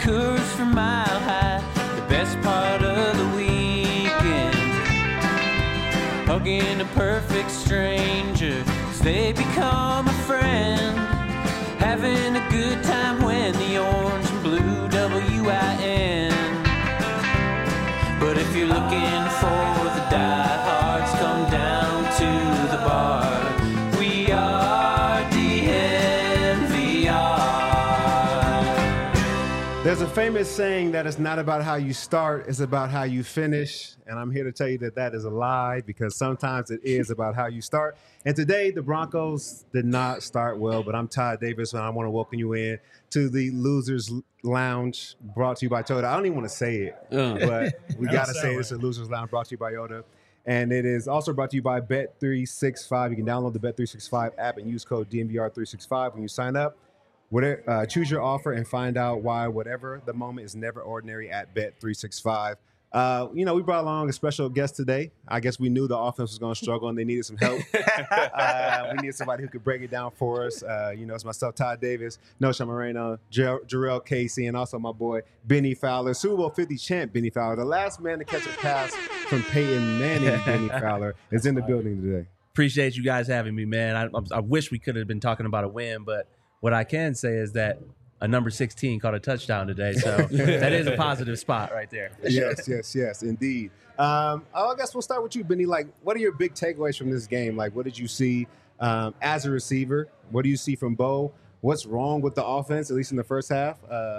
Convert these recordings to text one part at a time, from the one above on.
Coors from Mile High, the best part of the weekend. Hugging a perfect stranger as they become a friend. Having a good time when the orange and blue WIN. But if you're looking for the diehards, come down to the bar. We are DNVR. There's a famous saying that it's not about how you start, it's about how you finish. And I'm here to tell you that that is a lie, because sometimes it is about how you start. And today, the Broncos did not start well, but I'm Todd Davis, and I want to welcome you in to the Losers Lounge, brought to you by Toyota. I don't even want to say it, but we got to say this: a Losers Lounge brought to you by Toyota. And it is also brought to you by Bet365. You can download the Bet365 app and use code DNVR365 when you sign up. Choose your offer and find out why whatever the moment is never ordinary at Bet365. We brought along a special guest today. I guess we knew the offense was going to struggle and they needed some help. We needed somebody who could break it down for us. It's myself, Todd Davis, Nosha Moreno, Jarrell Casey, and also my boy, Benny Fowler, Super Bowl 50 champ Benny Fowler. The last man to catch a pass from Peyton Manning, Benny Fowler, is in the building today. Appreciate you guys having me, man. I wish we could have been talking about a win, but what I can say is that a number 16 caught a touchdown today, so that is a positive spot right there. Yes, indeed. I guess we'll start with you, Benny. Like, what are your big takeaways from this game? Like, what did you see as a receiver? What do you see from Bo? What's wrong with the offense, at least in the first half?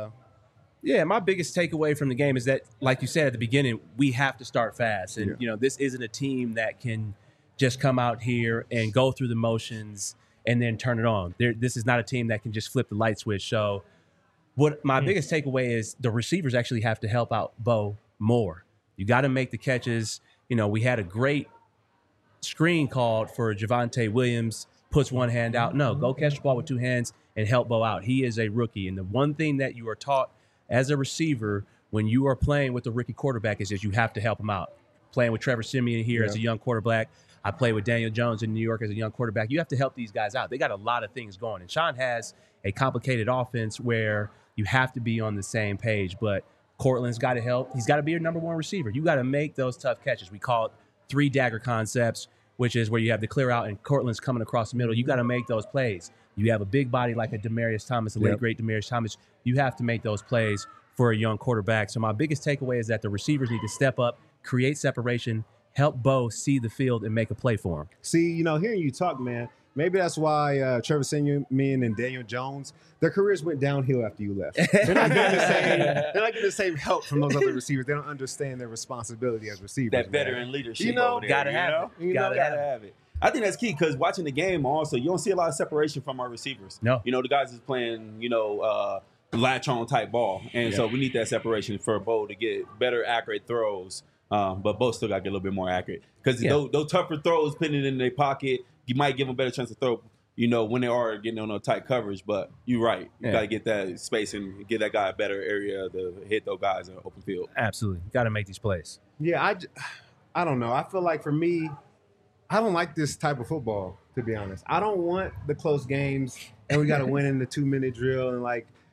My biggest takeaway from the game is that, like you said at the beginning, we have to start fast. And, this isn't a team that can just come out here and go through the motions and then turn it on. This is not a team that can just flip the light switch. So what my biggest takeaway is, the receivers actually have to help out Bo more. You got to make the catches. We had a great screen called for Javonte Williams, puts one hand out. No, go catch the ball with two hands and help Bo out. He is a rookie. And the one thing that you are taught as a receiver when you are playing with a rookie quarterback is that you have to help him out. Playing with Trevor Siemian here as a young quarterback. I played with Daniel Jones in New York as a young quarterback. You have to help these guys out. They got a lot of things going. And Sean has a complicated offense where you have to be on the same page. But Cortland's got to help. He's got to be your number one receiver. You got to make those tough catches. We call it 3-dagger concepts, which is where you have the clear out and Cortland's coming across the middle. You got to make those plays. You have a big body like a Demaryius Thomas, the late, great Demaryius Thomas. You have to make those plays for a young quarterback. So my biggest takeaway is that the receivers need to step up, create separation, help Bo see the field and make a play for him. See, hearing you talk, man, maybe that's why Trevor Siemian and Daniel Jones, their careers went downhill after you left. They're not getting the same help from those other receivers. They don't understand their responsibility as receivers. That veteran leadership. Gotta have it. I think that's key, because watching the game also, you don't see a lot of separation from our receivers. No. The guys is playing, latch on type ball. And so we need that separation for Bo to get better, accurate throws. But Bo still got to get a little bit more accurate, because those tougher throws, putting it in their pocket, you might give them a better chance to throw, when they are getting on a tight coverage. But you're right. You got to get that space and get that guy a better area to hit those guys in the open field. Absolutely. Got to make these plays. Yeah, I don't know. I feel like for me, I don't like this type of football, to be honest. I don't want the close games and we got to win in the 2-minute drill. And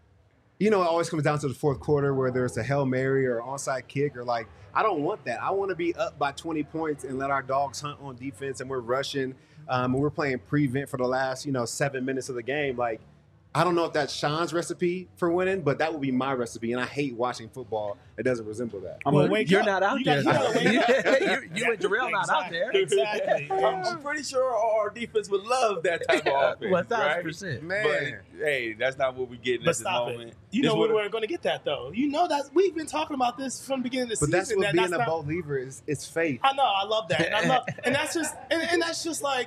it always comes down to the fourth quarter where there's a Hail Mary or onside kick or I don't want that. I want to be up by 20 points and let our dogs hunt on defense, and we're rushing. And we're playing prevent for the last, 7 minutes of the game. I don't know if that's Sean's recipe for winning, but that would be my recipe. And I hate watching football that doesn't resemble that. You're not out there. You and Jarrell not out there. Exactly. I'm pretty sure our defense would love that type of offense. 1,000%. Right? Man. But, hey, that's not what we're getting at this moment. We weren't going to get that, though. That we've been talking about this from the beginning of the season. But that's what being a believer is. It's faith. I know. I love that. And that's just like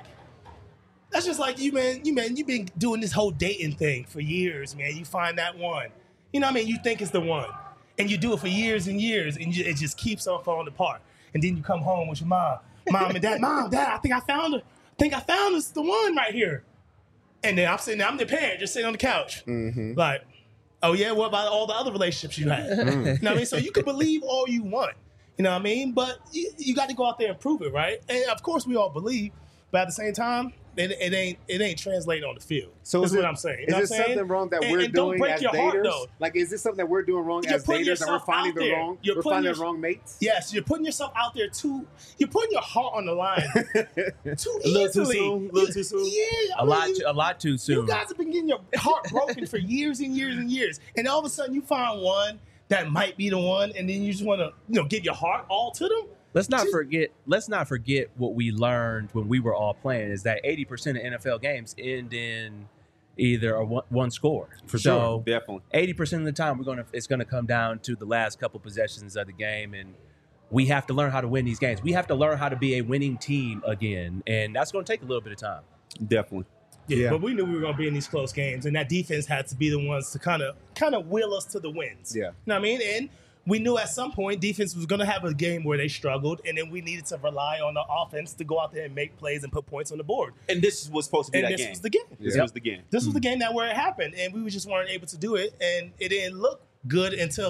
you've been doing this whole dating thing for years, man. You find that one. You think it's the one. And you do it for years and years, and it just keeps on falling apart. And then you come home with your mom and dad. Mom, Dad, I think I found her. It's the one right here. And then I'm sitting there, I'm the parent, just sitting on the couch. Mm-hmm. Like, oh yeah, what about all the other relationships you had? You know what I mean? So you can believe all you want. You know what I mean? But you got to go out there and prove it, right? And of course we all believe, but at the same time, it ain't translating on the field. So that's is what it- I'm saying. You Is know this what I'm saying? something wrong that And- we're and don't doing break as your heart, daters? though. Like, is this something that we're doing wrong You're as putting daters and we're yourself finding out the there. wrong? You're We're putting finding your- the wrong mates. Yes, you're putting yourself out there too. You're putting your heart on the line too A little too easily. soon, a little too soon. Yeah, I mean, A lot too soon. You guys have been getting your heart broken for years and years and years, and all of a sudden you find one that might be the one, and then you just want to, give your heart all to them. Let's not forget what we learned when we were all playing is that 80% of NFL games end in either a one score. For so sure. Definitely. 80% of the time it's gonna come down to the last couple possessions of the game, and we have to learn how to win these games. We have to learn how to be a winning team again, and that's going to take a little bit of time. Definitely. Yeah. But we knew we were going to be in these close games, and that defense had to be the ones to kind of will us to the wins. Yeah. You know what I mean? And we knew at some point defense was going to have a game where they struggled, and then we needed to rely on the offense to go out there and make plays and put points on the board. And this was supposed to be And that this game. was the game. This Yeah. was the game. This was the game that where it happened, and we just weren't able to do it, and it didn't look good until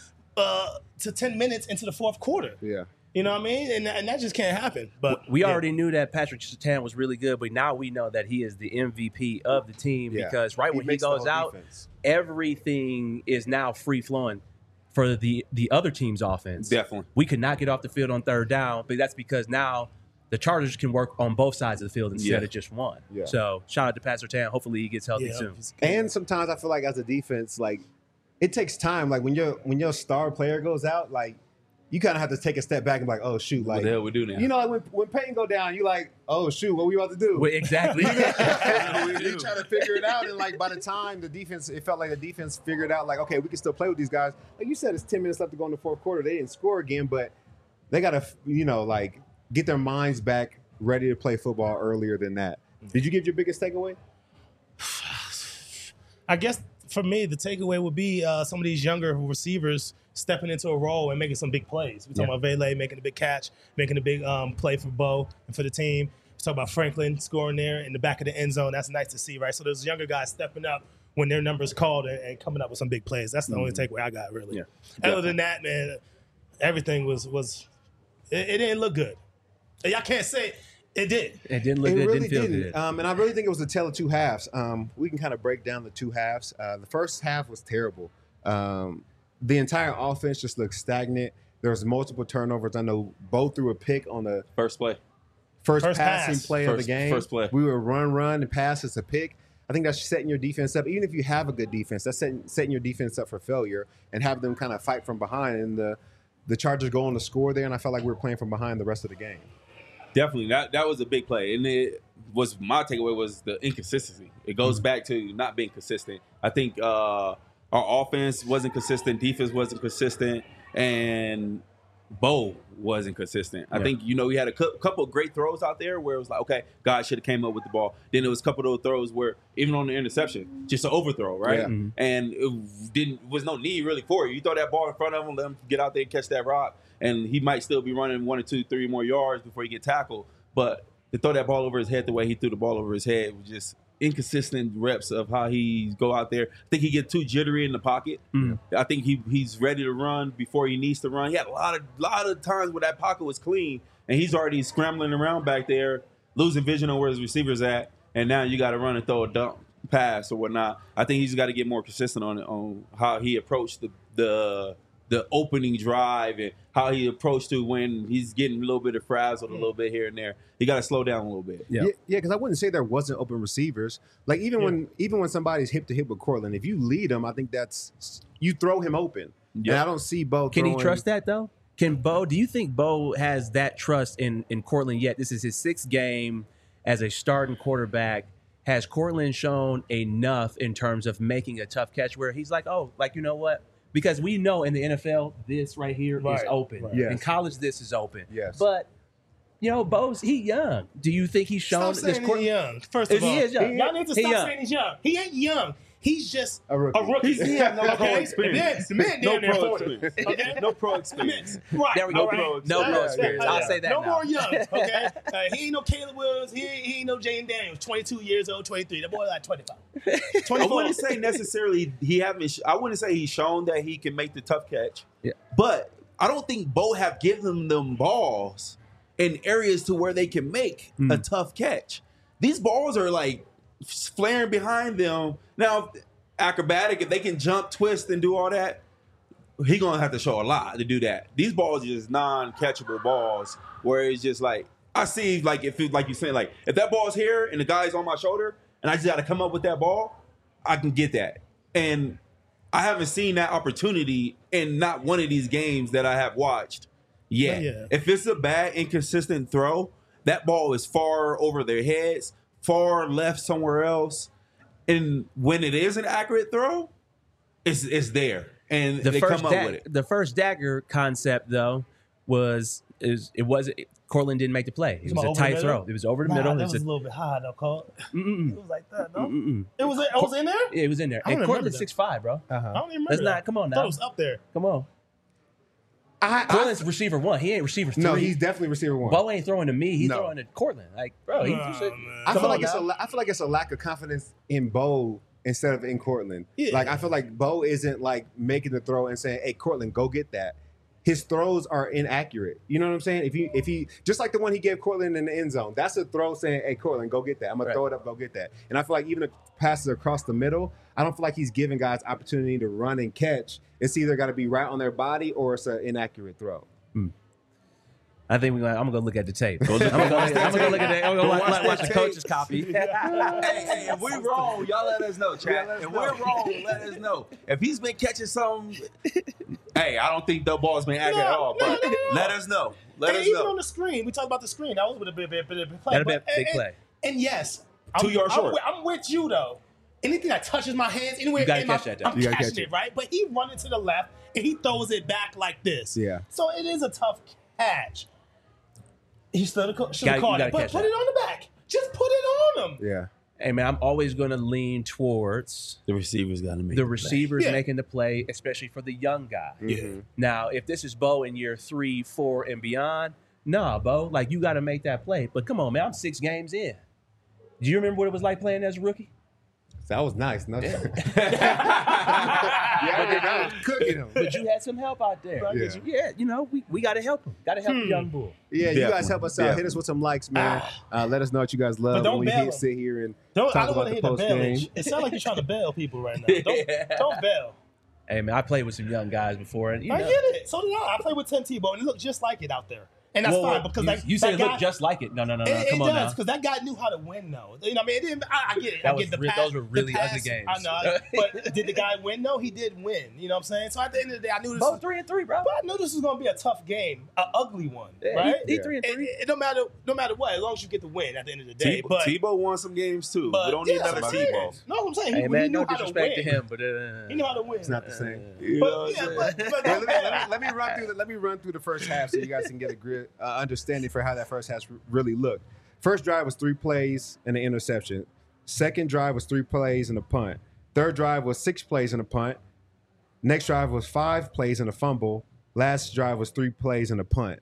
to 10 minutes into the fourth quarter. Yeah. You know what I mean? And that just can't happen. But We yeah. already knew that Patrick Surtain was really good, but now we know that he is the MVP of the team Yeah. because when he makes the goes whole out, defense. everything is now free flowing for the other team's offense. Definitely. We could not get off the field on third down, but that's because now the Chargers can work on both sides of the field instead Yeah. of just one. Yeah. So shout out to Pat Surtain. Hopefully he gets healthy Yeah, soon. And sometimes I feel like as a defense, like it takes time. Like when your star player goes out, like you kind of have to take a step back and be like, oh shoot, What like the hell we do now? you know, like when Peyton go down, you like, oh shoot, what we about to do? Well, exactly. They try to figure it out, and like by the time the defense, it felt like the defense figured out, like, okay, we can still play with these guys. Like you said, it's 10 minutes left to go in the fourth quarter. They didn't score again, but they gotta, like get their minds back ready to play football earlier than that. Did you get your biggest takeaway? I guess for me, the takeaway would be some of these younger receivers stepping into a role and making some big plays. We're talking about Vele making a big catch, making a big play for Bo and for the team. We're talking about Franklin scoring there in the back of the end zone. That's nice to see, right? So those younger guys stepping up when their number's called and coming up with some big plays. That's the only takeaway I got, really. Yeah. Other than that, man, everything was it didn't look good. Y'all can't say it did. It didn't look It good. really Didn't feel didn't. good. And I really think it was a tale of two halves. We can kind of break down the two halves. The first half was terrible. The entire offense just looked stagnant. There was multiple turnovers. I know Bo threw a pick on the First play. first First passing pass. play of the First- game. first play. We were run, and pass. It's a pick. I think that's setting your defense up. Even if you have a good defense, that's setting your defense up for failure and have them kind of fight from behind. And the Chargers go on to score there, and I felt like we were playing from behind the rest of the game. Definitely, that was a big play, and it was my takeaway was the inconsistency. It goes back to not being consistent. I think our offense wasn't consistent, defense wasn't consistent, and Bo wasn't consistent. I think we had a couple of great throws out there where it was like, okay, God should have came up with the ball. Then there was a couple of those throws where even on the interception, just an overthrow, right? Yeah. And it was no need really for it. You throw that ball in front of him, let him get out there and catch that rock, and he might still be running 1 or 2, 3 more yards before he get tackled. But to throw that ball over his head the way he threw the ball over his head was just inconsistent reps of how he go out there. I think he get too jittery in the pocket. I think he's ready to run before he needs to run. He had a lot of times where that pocket was clean and he's already scrambling around back there, losing vision on where his receiver's at, and now you got to run and throw a dump pass or whatnot. I think he's got to get more consistent on how he approached the opening drive and how he approached to when he's getting a little bit of frazzled a little bit here and there. He got to slow down a little bit. Yeah. Yeah, because I wouldn't say there wasn't open receivers. Like even when somebody's hip to hip with Cortland, if you lead him, I think that's you throw him open. Yeah. And I don't see Bo. Can he throwing- trust that though? Do you think Bo has that trust in Cortland yet? This is his 6th game as a starting quarterback. Has Cortland shown enough in terms of making a tough catch where he's like, oh, like, you know what? Because we know in the NFL, this right here is Right, open. right. Yes. In college, this is open. Yes. But, Bo's, he young. Do you think he's shown Stop saying this he's young. First of He all, is young. y'all need to He stop young. saying he's young. He ain't young. He's just A rookie. He had no pro Okay? experience. The man No damn near pro 40. experience. Okay? No pro experience. Right. There we all go. right? No pro Yeah, experience. yeah, I'll yeah. say that No now. more young. Okay. He ain't no Caleb Williams. He ain't no Jaden Daniels. 22 years old, 23. That boy like 25. I 24. wouldn't say necessarily I wouldn't say he's shown that he can make the tough catch. Yeah. But I don't think Bo have given them balls in areas to where they can make a tough catch. these balls are like flaring behind them. Now, acrobatic, if they can jump, twist, and do all that, he gonna have to show a lot to do that. These balls are just non-catchable balls where it's just like I see like if it, like you saying like if that ball's here and the guy's on my shoulder and I just got to come up with that ball, I can get that. And I haven't seen that opportunity in not one of these games that I have watched yet. Yeah. If it's a bad, inconsistent throw, that ball is far over their heads, far left somewhere else. And when it is an accurate throw, it's there. And they come up with it. The first dagger concept, though, was Cortland didn't make the play. It was a tight throw. It was over the middle. That was a little bit high, though, Cole. It was like that, no? Mm-mm. It was in there? Yeah, it was in there. And Cortland's 6'5", bro. I don't even remember Let's that. not. Come on now. I thought it was up there. Come on. Cortland's receiver 1. He ain't receiver 3. No, he's definitely receiver 1. Bo ain't throwing to me. He's No. throwing to Cortland. Like, bro, he should. I feel like now. I feel like it's a lack of confidence in Bo instead of in Cortland. Yeah. Like I feel like Bo isn't like making the throw and saying, "Hey, Cortland, go get that." His throws are inaccurate. You know what I'm saying? If he just like the one he gave Cortland in the end zone, that's a throw saying, "Hey, Cortland, go get that. I'm gonna throw it up, go get that." And I feel like even the passes across the middle, I don't feel like he's giving guys opportunity to run and catch. It's either got to be right on their body or it's an inaccurate throw. I think I'm gonna go look at the tape. I'm gonna go look at the. I'm gonna watch the coach's copy. Hey, if we're wrong, y'all let us know, chat. If we're wrong, let us know. If he's been catching some, hey, I don't think the ball's been accurate at all. But let us know. Let us even know. on the screen, we talked about the screen. That was a big play. That'd be a big play. And yes, 2 yards short. I'm with you though. Anything that touches my hands, anywhere, You gotta in my, catch that, though. I'm You gotta catching catch it, it. right? But he running to the left and he throws it back like this. Yeah. So it is a tough catch. He should have caught You it, gotta but catch put that. it on the back. Just put it on him. Yeah. Hey man, I'm always gonna lean towards The receivers got to make the receivers Yeah. making the play, especially for the young guy. Mm-hmm. Now, if this is Bo in year 3, 4, and beyond, nah, Bo, like you got to make that play. But come on, man, I'm 6 games in. Do you remember what it was like playing as a rookie? That was nice. No. Yeah, I was cooking him. But you had some help out there. Yeah. You know, we got to help him. Got to help the young bull. Yeah, you guys Definitely. help us out. Hit us with some likes, man. Let us know what you guys love But don't when we bail 'em. sit here and I talk don't about want to the hear the post game. bailage. It sounds like you're trying to bail people right now. Don't bail. Hey man, I played with some young guys before, and you I know, get it. So did I. I played with Tim Tebow, and it looked just like it out there. And that's fine because you said it that looked just like it. No, It come on does now. because that guy knew how to win, though. You know, what I mean, it didn't. I get it. That I was get the re- pass, those were really the pass, ugly games. I know, but did the guy win? No, he did win. You know what I'm saying? So at the end of the day, I knew this. Both 3-3, bro. But I knew this was going to be a tough game, an ugly one, right? He 3-3. It don't matter, no matter what, as long as you get the win at the end of the day. Tebow won some games too. We don't need another that's what I'm saying. Tebow. No, I'm saying Hey he man, knew no how to disrespect to win. him, but He knew how to win. It's not the same. But Let me run through the first half so you guys can get a good understanding for how that first half really looked. First drive was 3 plays and an interception. Second drive was 3 plays and a punt. Third drive was 6 plays and a punt. Next drive was 5 plays and a fumble. Last drive was 3 plays and a punt.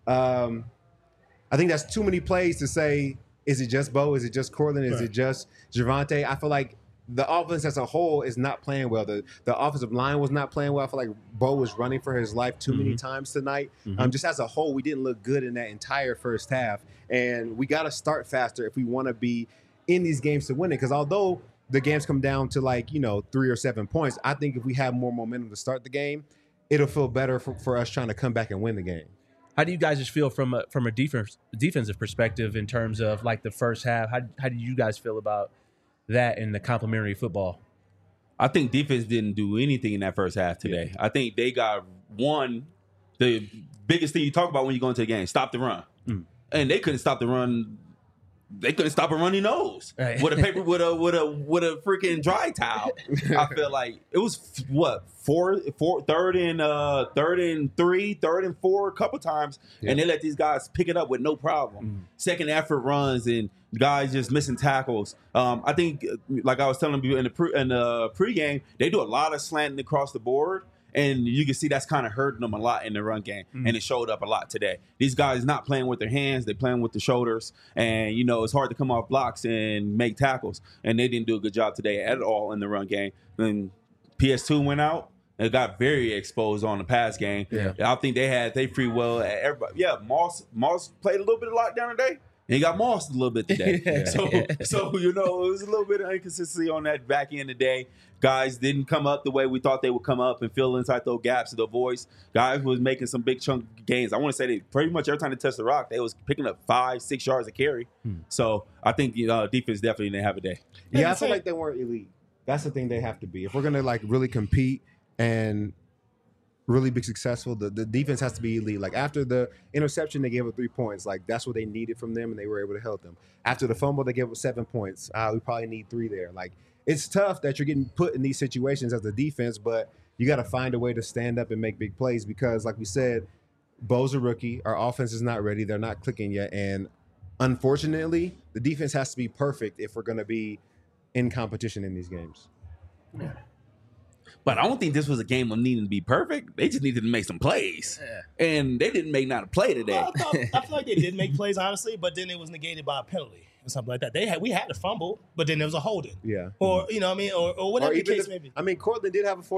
I think that's too many plays to say, is it just Bo? Is it just Cortland? Is it just Javonte? I feel like the offense as a whole is not playing well. The offensive line was not playing well. I feel like Bo was running for his life too many times tonight. Just as a whole, we didn't look good in that entire first half. And we got to start faster if we want to be in these games to win it. Because although the games come down to 3 or 7 points, I think if we have more momentum to start the game, it'll feel better for us trying to come back and win the game. how do you guys just feel from a defensive perspective in terms of like the first half? How do you guys feel about that in the complementary football? I think defense didn't do anything in that first half today. I think they got the biggest thing you talk about when you go into the game, stop the run. And they couldn't stop the run. They couldn't stop a runny nose Right. with a paper with a freaking dry towel. I feel like it was third and 3, third and 4 a couple times, and they let these guys pick it up with no problem. Second effort runs and guys just missing tackles. I think, like I was telling you in the pregame, they do a lot of slanting across the board. And you can see that's kind of hurting them a lot in the run game. And it showed up a lot today. These guys not playing with their hands. They're playing with the shoulders. And, it's hard to come off blocks and make tackles. And they didn't do a good job today at all in the run game. Then PS2 went out. It got very exposed on the pass game. Yeah. I think they free will at everybody. Yeah, Moss played a little bit of lockdown today. And he got mossed a little bit today. So it was a little bit of inconsistency on that back end today. Guys didn't come up the way we thought they would come up and fill inside those gaps of the voice. Guys was making some big chunk gains. I want to say they pretty much every time they touched the rock, they was picking up 5-6 yards of carry. So I think defense definitely didn't have a day. Yeah, I feel like they weren't elite. That's the thing they have to be. If we're gonna really compete and really be successful, the defense has to be elite. Like after the interception, they gave up 3 points. Like that's what they needed from them, and they were able to help them. After the fumble, they gave up 7 points. We probably need 3 there. Like it's tough that you're getting put in these situations as a defense, but you got to find a way to stand up and make big plays because, like we said, Bo's a rookie. Our offense is not ready. They're not clicking yet, and unfortunately, the defense has to be perfect if we're going to be in competition in these games. Yeah. But I don't think this was a game of needing to be perfect. They just needed to make some plays. Yeah. And they didn't make not a play today. Well, I feel like they did make plays, honestly, but then it was negated by a penalty or something like that. We had a fumble, but then there was a holding. Yeah. Or, you know what I mean? Or whatever the case may be. I mean, Cortland did have a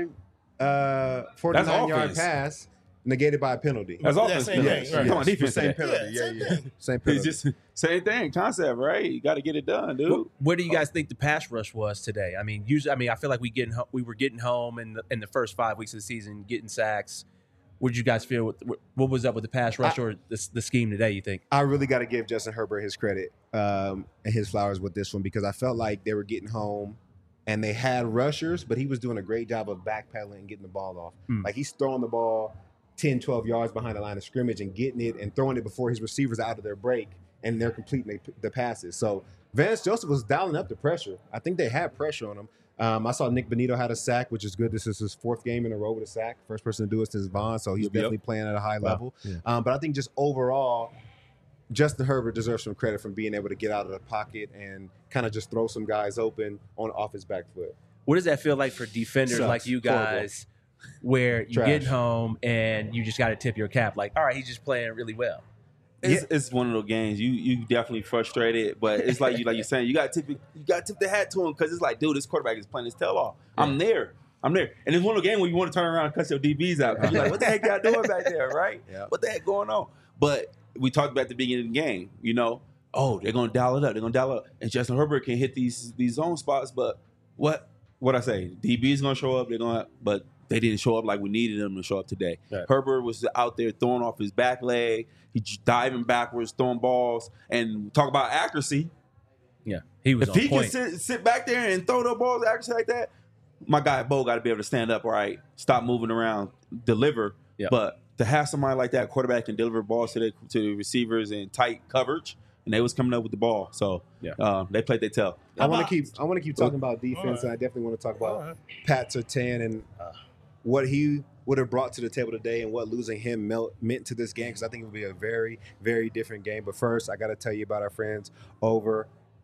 49-yard pass. Negated by a penalty. That's offense. Same thing. Right. Come on, defense. Same penalty. Same penalty. It's just same thing. Concept, right? You got to get it done, dude. Where do you guys think the pass rush was today? I mean, usually, I feel like we were getting home in the first 5 weeks of the season, getting sacks. What did you guys feel? What was up with the pass rush or the scheme today, you think? I really got to give Justin Herbert his credit and his flowers with this one because I felt like they were getting home and they had rushers, but he was doing a great job of backpedaling and getting the ball off. Like he's throwing the ball 10, 12 yards behind the line of scrimmage and getting it and throwing it before his receivers are out of their break and they're completing the passes. So Vance Joseph was dialing up the pressure. I think they had pressure on him. I saw Nick Benito had a sack, which is good. This is his 4th game in a row with a sack. First person to do it since Vaughn, so he's definitely playing at a high level. Yeah. But I think just overall, Justin Herbert deserves some credit from being able to get out of the pocket and kind of just throw some guys open off his back foot. What does that feel like for defenders like you guys? Horrible. Where you get home and you just got to tip your cap, like, all right, he's just playing really well. It's one of those games you definitely frustrated, but it's like you're saying you got to tip the hat to him because it's like, dude, this quarterback is playing his tail off. Yeah. I'm there, and it's one of those games where you want to turn around and cut your DBs out. You're like, what the heck y'all doing back there, right? Yeah. What the heck going on? But we talked about at the beginning of the game, they're gonna dial it up, and Justin Herbert can hit these zone spots. But what I say, DB's gonna show up. But they didn't show up like we needed them to show up today. Right. Herbert was out there throwing off his back leg. He's diving backwards, throwing balls. And talk about accuracy. Yeah, he was on point. If he can sit back there and throw the balls accuracy like that, my guy Bo got to be able to stand up, right, stop moving around, deliver. Yep. But to have somebody like that, quarterback, can deliver balls to the receivers in tight coverage, and they was coming up with the ball. So they played their tail. I want to keep talking about defense, and I definitely want to talk about Pat Surtain and what he would have brought to the table today and what losing him meant to this game, because I think it would be a very, very different game. But first, I got to tell you about our friends over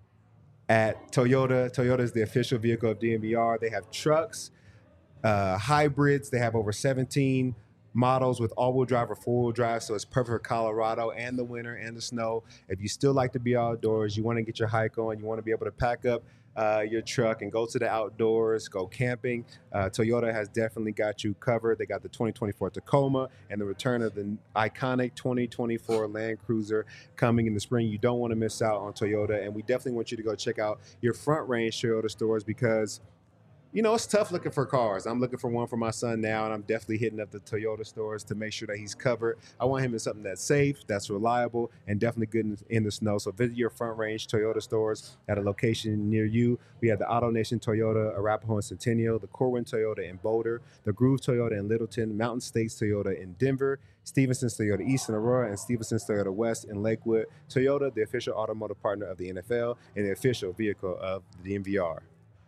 at Toyota. Toyota is the official vehicle of DNVR. They have trucks, hybrids. They have over 17 models with all-wheel drive or four-wheel drive, so it's perfect for Colorado and the winter and the snow. If you still like to be outdoors, you want to get your hike on, you want to be able to pack up your truck and go to the outdoors, go camping, Toyota has definitely got you covered. They got the 2024 Tacoma and the return of the iconic 2024 Land Cruiser coming in the spring. You don't want to miss out on Toyota, and we definitely want you to go check out your Front Range Toyota stores because it's tough looking for cars. I'm looking for one for my son now, and I'm definitely hitting up the Toyota stores to make sure that he's covered. I want him in something that's safe, that's reliable, and definitely good in the snow. So visit your Front Range Toyota stores at a location near you. We have the Auto Nation Toyota, Arapahoe and Centennial, the Corwin Toyota in Boulder, the Groove Toyota in Littleton, Mountain States Toyota in Denver, Stevenson's Toyota East in Aurora, and Stevenson's Toyota West in Lakewood. Toyota, the official automotive partner of the NFL and the official vehicle of the DNVR.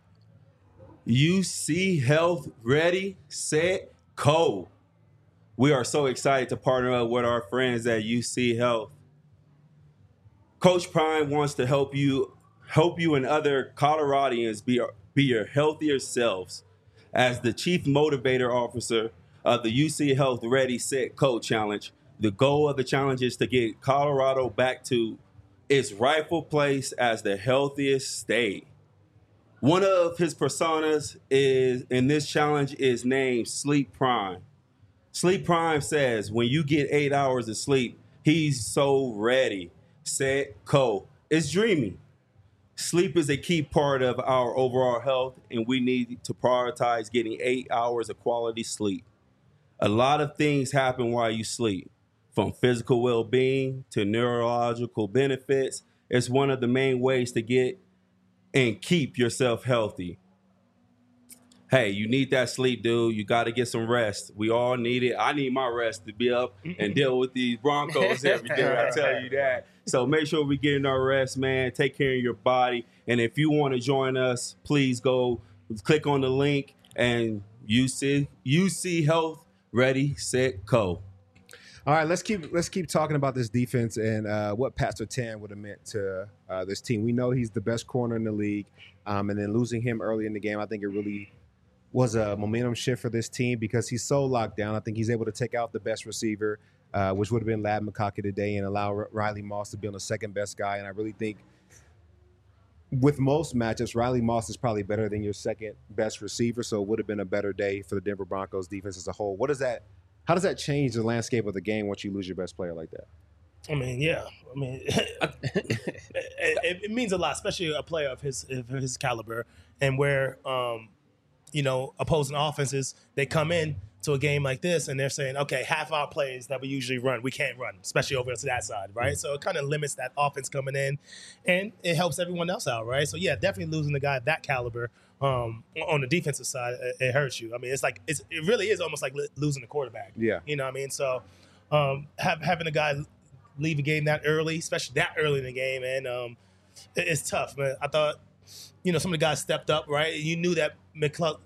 UC Health, ready, set, go. We are so excited to partner up with our friends at UC Health. Coach Prime wants to help you and other Coloradians be your healthier selves. As the Chief Motivator Officer of the UC Health Ready, Set, Go Challenge, the goal of the challenge is to get Colorado back to its rightful place as the healthiest state. One of his personas in this challenge is named Sleep Prime. Sleep Prime says when you get 8 hours of sleep, he's so ready. set, go. It's dreamy. Sleep is a key part of our overall health, and we need to prioritize getting 8 hours of quality sleep. A lot of things happen while you sleep, from physical well-being to neurological benefits. It's one of the main ways to get and keep yourself healthy. Hey, you need that sleep, dude. You got to get some rest. We all need it. I need my rest to be up and deal with these Broncos every day. I tell you that. So make sure we get in our rest, man. Take care of your body. And if you want to join us, please go click on the link and UC Health Ready, Set, Go. All right, let's keep talking about this defense and what Pat Surtain would have meant to this team. We know he's the best corner in the league, and then losing him early in the game, I think it really was a momentum shift for this team because he's so locked down. I think he's able to take out the best receiver, which would have been Ladd McConkey today, and allow Riley Moss to be on the second best guy. And I really think with most matchups, Riley Moss is probably better than your second best receiver, so it would have been a better day for the Denver Broncos defense as a whole. How does that change the landscape of the game once you lose your best player like that? I mean, yeah. I mean, it means a lot, especially a player of his caliber, and where opposing offenses, they come in to a game like this and they're saying, okay, half our plays that we usually run, we can't run, especially over to that side, right? So it kind of limits that offense coming in, and it helps everyone else out, right? So yeah, definitely losing a guy of that caliber on the defensive side, it hurts you. I mean, it really is almost like losing a quarterback. Yeah, you know what I mean? So having a guy leave a game that early, especially that early in the game, and it's tough, man. I thought, some of the guys stepped up, right? You knew that the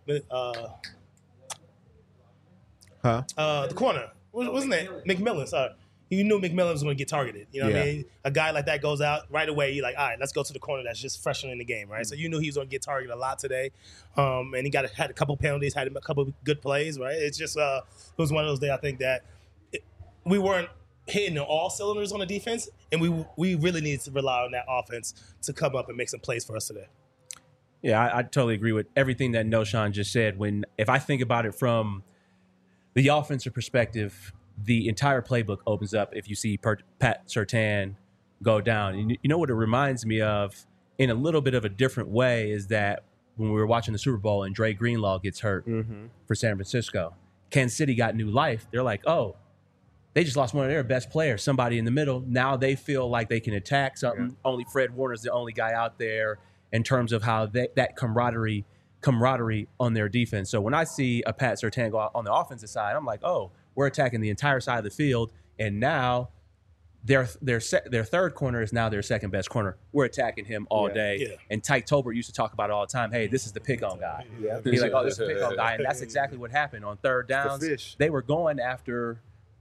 corner, wasn't it McMillan? Sorry. You knew McMillan was going to get targeted. You know what I mean? A guy like that goes out right away. You're like, all right, let's go to the corner that's just fresher in the game, right? So you knew he was going to get targeted a lot today. And he had a couple penalties, had a couple good plays, right? It's just it was one of those days I think that we weren't hitting all cylinders on the defense, and we really needed to rely on that offense to come up and make some plays for us today. Yeah, I totally agree with everything that Noshawn just said. If I think about it from the offensive perspective, the entire playbook opens up if you see Pat Surtain go down. And you know what it reminds me of in a little bit of a different way is that when we were watching the Super Bowl and Dre Greenlaw gets hurt for San Francisco, Kansas City got new life. They're like, oh, they just lost one of their best players, somebody in the middle. Now they feel like they can attack something. Yeah. Only Fred Warner's the only guy out there in terms of how that camaraderie on their defense. So when I see a Pat Surtain go out on the offensive side, I'm like, oh, we're attacking the entire side of the field, and now their third corner is now their second best corner. We're attacking him all day. Yeah. And Tyke Tolbert used to talk about it all the time. Hey, this is the pick-on guy. Yeah. He's like, oh, this is the pick-on guy, and that's exactly what happened on third downs. They were going after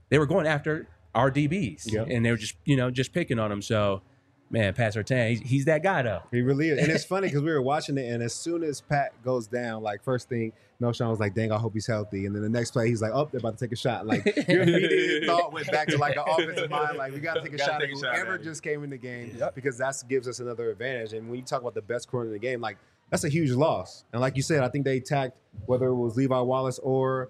our DBs, and they were just picking on them. So, man, Pat Surtain, he's that guy though. He really is. And it's funny because we were watching it, and as soon as Pat goes down, like first thing, Noshawn was like, dang, I hope he's healthy. And then the next play, he's like, oh, they're about to take a shot. Like your immediate thought went back to like an offensive mind, like we got to take a shot at whoever just came in the game because that gives us another advantage. And when you talk about the best corner in the game, like that's a huge loss. And like you said, I think they attacked whether it was Levi Wallace or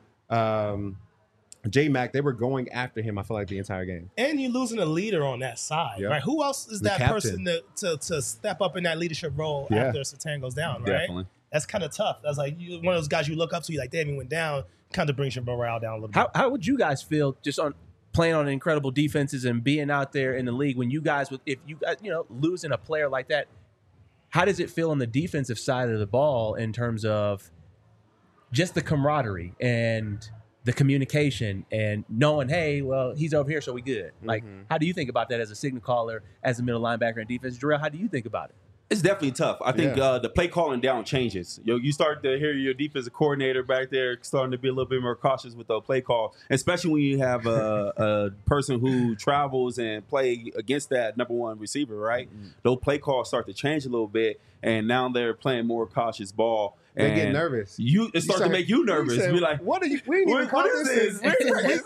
J-Mac, they were going after him, I feel like, the entire game. And you're losing a leader on that side, right? Who else is that person to step up in that leadership role after Surtain goes down, right? Definitely. That's kind of tough. That's like one of those guys you look up to, you're like, damn, he went down, kind of brings your morale down a little bit. How would you guys feel just on playing on incredible defenses and being out there in the league when you guys, if you guys, losing a player like that, how does it feel on the defensive side of the ball in terms of just the camaraderie and the communication and knowing, hey, well, he's over here, so we good. Like, how do you think about that as a signal caller, as a middle linebacker in defense? Jarrell, how do you think about it? It's definitely tough. I think the play calling down changes. You start to hear your defensive coordinator back there starting to be a little bit more cautious with the play call, especially when you have a person who travels and play against that number one receiver, right? Those play calls start to change a little bit, and now they're playing more cautious ball. They get nervous. It starts to make you nervous. Be like, what are you? We didn't even call this. And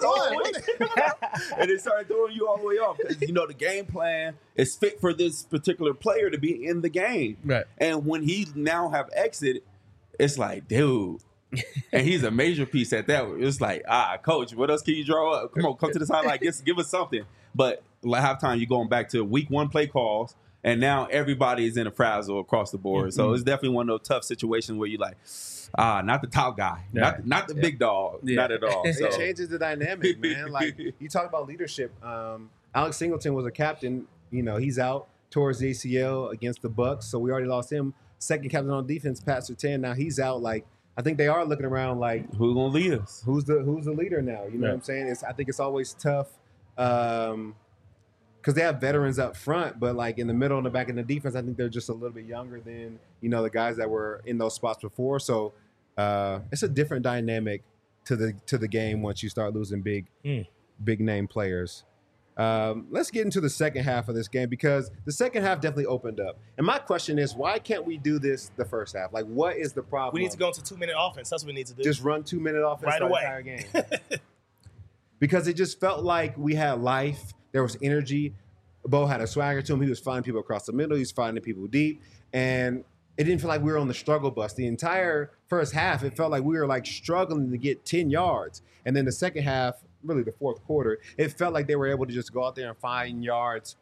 it started throwing you all the way off because the game plan is fit for this particular player to be in the game. Right. And when he now have exited, it's like, dude. And he's a major piece at that. It's like, coach, what else can you draw up? Come on, come to the sideline. Give us something. But halftime, you're going back to week 1 play calls, and now everybody is in a frazzle across the board. So it's definitely one of those tough situations where you're like, not the top guy, not the big dog, not at all. So. It changes the dynamic, man. Like you talk about leadership. Alex Singleton was a captain. He's out towards the ACL against the Bucks, so we already lost him. Second captain on defense, Pat Surtain. Now he's out. Like I think they are looking around like who's gonna lead us? Who's the leader now? You know what I'm saying? I think it's always tough. Because they have veterans up front, but like in the middle and the back of the defense, I think they're just a little bit younger than the guys that were in those spots before. So it's a different dynamic to the game once you start losing big name players. Let's get into the second half of this game because the second half definitely opened up. And my question is, why can't we do this the first half? Like, what is the problem? We need to go into 2-minute offense. That's what we need to do. Just run 2-minute offense right the away. entire game. Because it just felt like we had life. There was energy. Bo had a swagger to him. He was finding people across the middle. He was finding people deep. And it didn't feel like we were on the struggle bus. The entire first half, it felt like we were like struggling to get 10 yards. And then the second half, really the fourth quarter, it felt like they were able to just go out there and find yards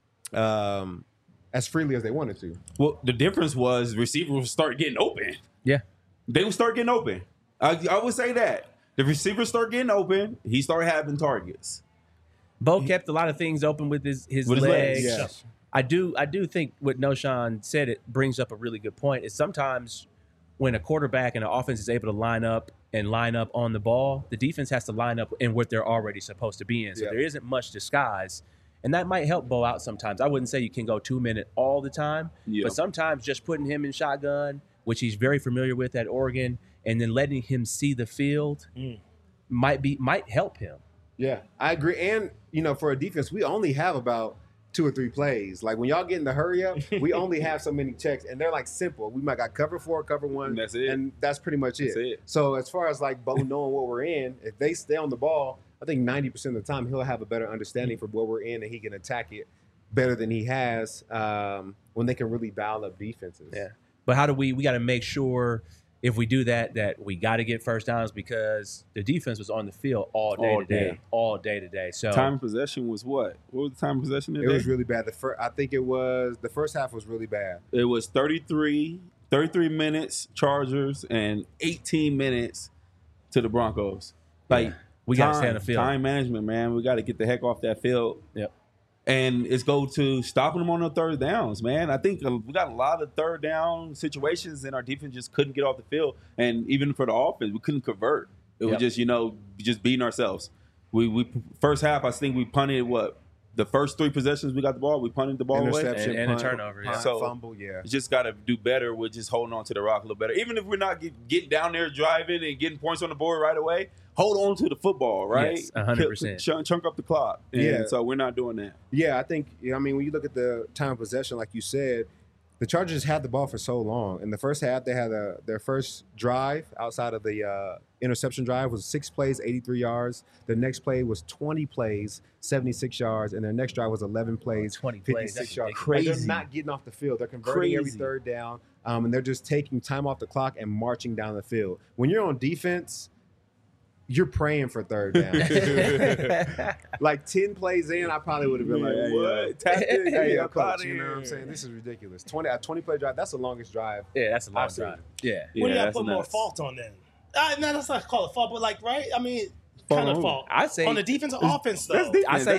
as freely as they wanted to. Well, the difference was receivers would start getting open. Yeah. They would start getting open. I would say that. The receivers start getting open. He started having targets. Bo kept a lot of things open with his legs. Yes. I do think what Noshawn said, it brings up a really good point, is sometimes when a quarterback and an offense is able to line up on the ball, the defense has to line up in what they're already supposed to be in. So there isn't much disguise. And that might help Bo out sometimes. I wouldn't say you can go 2-minute all the time, but sometimes just putting him in shotgun, which he's very familiar with at Oregon, and then letting him see the field might help him. Yeah, I agree. And, for a defense, we only have about 2 or 3 plays. Like when y'all get in the hurry up, we only have so many checks, and they're like simple. We might got cover 4, cover 1, and that's it. And that's pretty much it. That's it. So as far as like Bo knowing what we're in, if they stay on the ball, I think 90% of the time he'll have a better understanding for what we're in, and he can attack it better than he has when they can really dial up defenses. Yeah, but how do we got to make sure if we do that we got to get first downs because the defense was on the field all day today. So time of possession was what? What was the time of possession today? It was really bad. I think the first half was really bad. It was 33 minutes Chargers and 18 minutes to the Broncos. Like we got to stay on the field. Time management, man. We got to get the heck off that field. Yep. And it's go to stopping them on the third downs, man. I think we got a lot of third down situations, and our defense just couldn't get off the field. And even for the offense, we couldn't convert. It was just, just beating ourselves. We first half, I think we punted the first 3 possessions we got the ball, we punted the ball away. Interception, and a turnover. Punt, So fumble, yeah. You just got to do better with just holding on to the rock a little better. Even if we're not getting down there driving and getting points on the board right away, hold on to the football, right? Yes, 100%. Chunk up the clock. And so we're not doing that. Yeah, I think, when you look at the time of possession, like you said, the Chargers had the ball for so long. In the first half, they had their first drive outside of the interception drive was 6 plays, 83 yards. The next play was 20 plays, 76 yards. And their next drive was 11 plays, 20 56 plays. yards. Crazy. They're not getting off the field. They're converting every third down, and they're just taking time off the clock and marching down the field. When you're on defense, you're praying for third down. Like 10 plays in, I probably would have been like, what? Hey, coach, you know what I'm saying? This is ridiculous. 20-play drive, that's the longest drive. Yeah, that's a long I've seen. drive. Yeah. What do you that's put more nuts. fault on then? No, that's not call it fault, but right? I mean, kind of fault. I say on the defensive offense though. I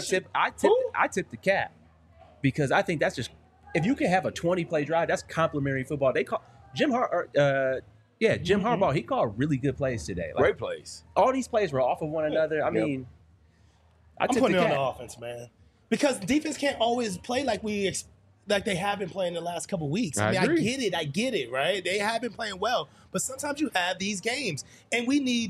tip the cap because I think that's just if you can have a 20-play drive, that's complimentary football. They call Jim Harbaugh. He called really good plays today. Like, Great plays. all these plays were off of one another. I mean, I'm putting it on the offense, man, because defense can't always play like like they have been playing the last couple weeks. I get it, right? They have been playing well, but sometimes you have these games, and we need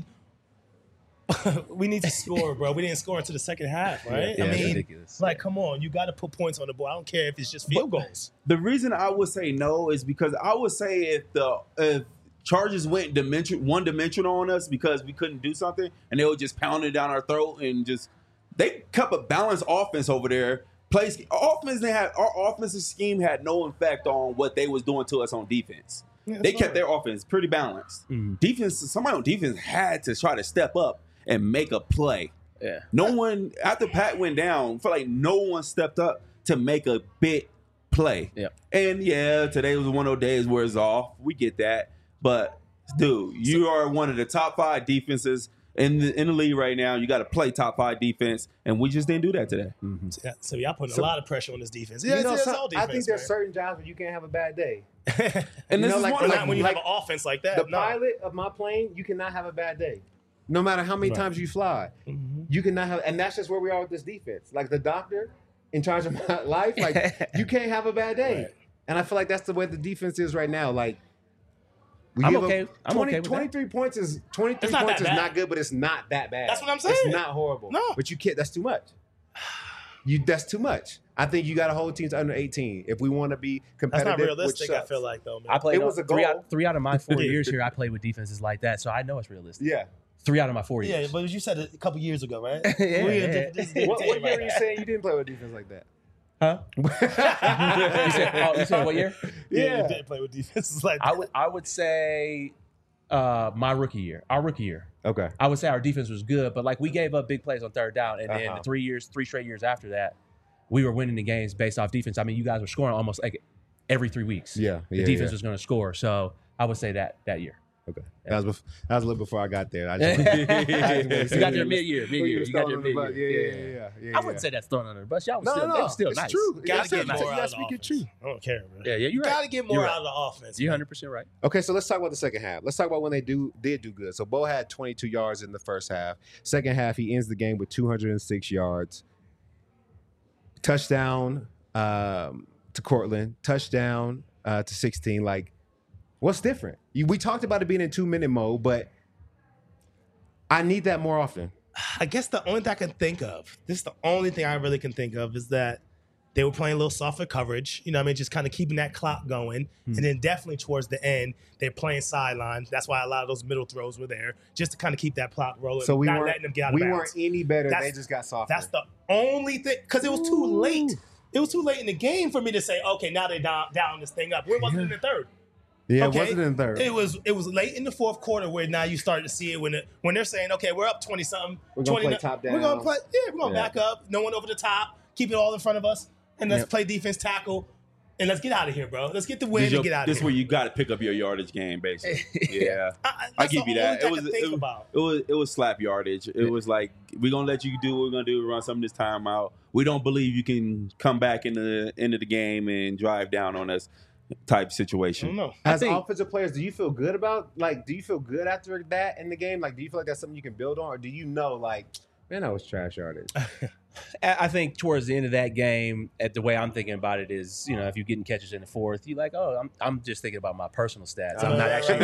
to score, bro. We didn't score until the second half, right? Yeah, I mean, ridiculous. like, come on, you got to put points on the board. I don't care if it's just field goals. The reason I would say no is because I would say if Chargers went one-dimensional on us because we couldn't do something, and they would just pound it down our throat and just they kept a balanced offense over there. Our offensive scheme had no effect on what they was doing to us on defense. Yeah, they kept their offense pretty balanced. Somebody on defense had to try to step up and make a play. Yeah. No one, after Pat went down, I feel like no one stepped up to make a big play. Yeah. And today was one of those days where it's off. We get that. But, dude, you are one of the top 5 defenses in the league right now. You got to play top 5 defense, and we just didn't do that today. Mm-hmm. So y'all putting a lot of pressure on this defense. Yeah, It's all defense, I think there's certain jobs where you can't have a bad day. And this is like, one of not when you have an offense like that. The pilot of my plane, you cannot have a bad day. No matter how many times you fly, you cannot have, and that's just where we are with this defense. Like the doctor in charge of my life, like you can't have a bad day. Right. And I feel like that's the way the defense is right now. Like I'm okay. I'm okay with 23 that. points is 23 points is not good, but it's not that bad. That's what I'm saying. It's not horrible. No, but you can't. That's too much. That's too much. I think you got to hold teams under 18 if we want to be competitive. That's not realistic. I feel like though, man. I played. It was a goal. Three out of my 4 years here, I played with defenses like that, so I know it's realistic. Yeah. 3 out of my 4 years. Yeah, but as you said a couple years ago, right? What year are you saying you didn't play with defense like that? Huh? you said what year? Yeah, you didn't play with defenses like that. I would say my rookie year, our rookie year. Okay. I would say our defense was good, but like we gave up big plays on third down, and then the 3 straight years after that, we were winning the games based off defense. I mean, you guys were scoring almost like every 3 weeks. Yeah. The defense was going to score, so I would say that year. Okay. Yeah. That was a little before I got there. You got there mid-year. You got there mid-year. Yeah. I wouldn't say that's thrown under the bus. Y'all was still it's nice. true. Gotta get more out of the offense. offense. I don't care, man. Yeah, you're right. Gotta get more out of the offense. You're 100% right. Okay, so let's talk about the second half. Let's talk about when they did do good. So Bo had 22 yards in the first half. Second half, he ends the game with 206 yards. Touchdown to Cortland. Touchdown to 16. Like, what's different? We talked about it being in 2-minute mode, but I need that more often. I guess the only thing I can think of, this is the only thing I really can think of, is that they were playing a little softer coverage, you know what I mean, just kind of keeping that clock going. And then definitely towards the end, they're playing sideline. That's why a lot of those middle throws were there, just to kind of keep that clock rolling, so not letting them get out of bounds. We weren't any better. They just got softer. That's the only thing, because it was too late. It was too late in the game for me to say, okay, now they're down this thing up. Where was it in the third? Yeah, okay. It wasn't in the third. It was late in the fourth quarter where now you start to see it when they're saying, okay, we're up 20-something. We're going to play top down. We're going to play, we're going to back up. No one over the top. Keep it all in front of us. And let's play defense tackle. And let's get out of here, bro. Let's get the win and get out of here. This is where you got to pick up your yardage game, basically. Yeah. I give you that. It was slap yardage. It was like, we're going to let you do what we're going to do, run some of this time out. We don't believe you can come back in the end of the game and drive down on us. Type situation. I don't know. As offensive players, do you feel good after that in the game? Like, do you feel like that's something you can build on, or do you know, like, man, that was trash yardage? I think towards the end of that game, the way I'm thinking about it is, you know, if you're getting catches in the fourth, you're like, oh, I'm just thinking about my personal stats. I'm not actually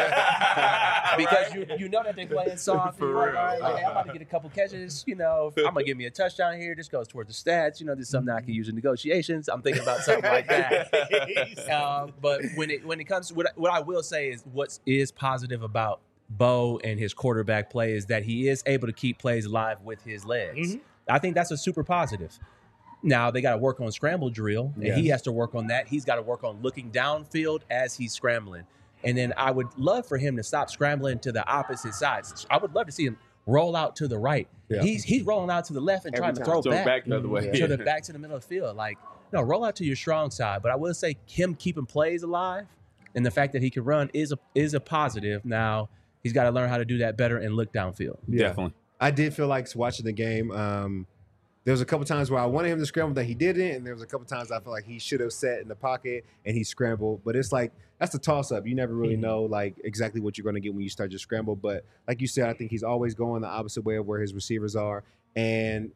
because you know that they're playing soft. And you're like, all right, I'm about to get a couple catches. You know, I'm gonna give me a touchdown here. This goes towards the stats. You know, this is something I can use in negotiations. I'm thinking about something like that. But when it comes to what I will say is what is positive about Bo and his quarterback play is that he is able to keep plays alive with his legs. Mm-hmm. I think that's a super positive. Now, they got to work on scramble drill, and he has to work on that. He's got to work on looking downfield as he's scrambling. And then I would love for him to stop scrambling to the opposite sides. I would love to see him roll out to the right. Yeah. He's rolling out to the left and trying to throw back the other way. Back to the middle of the field. Like, no, roll out to your strong side. But I will say him keeping plays alive and the fact that he can run is a positive. Now, he's got to learn how to do that better and look downfield. Yeah. Definitely. I did feel like watching the game. There was a couple times where I wanted him to scramble that he didn't, and there was a couple times I felt like he should have sat in the pocket and he scrambled. But it's like that's a toss-up. You never really know like exactly what you're going to get when you start your scramble. But like you said, I think he's always going the opposite way of where his receivers are, and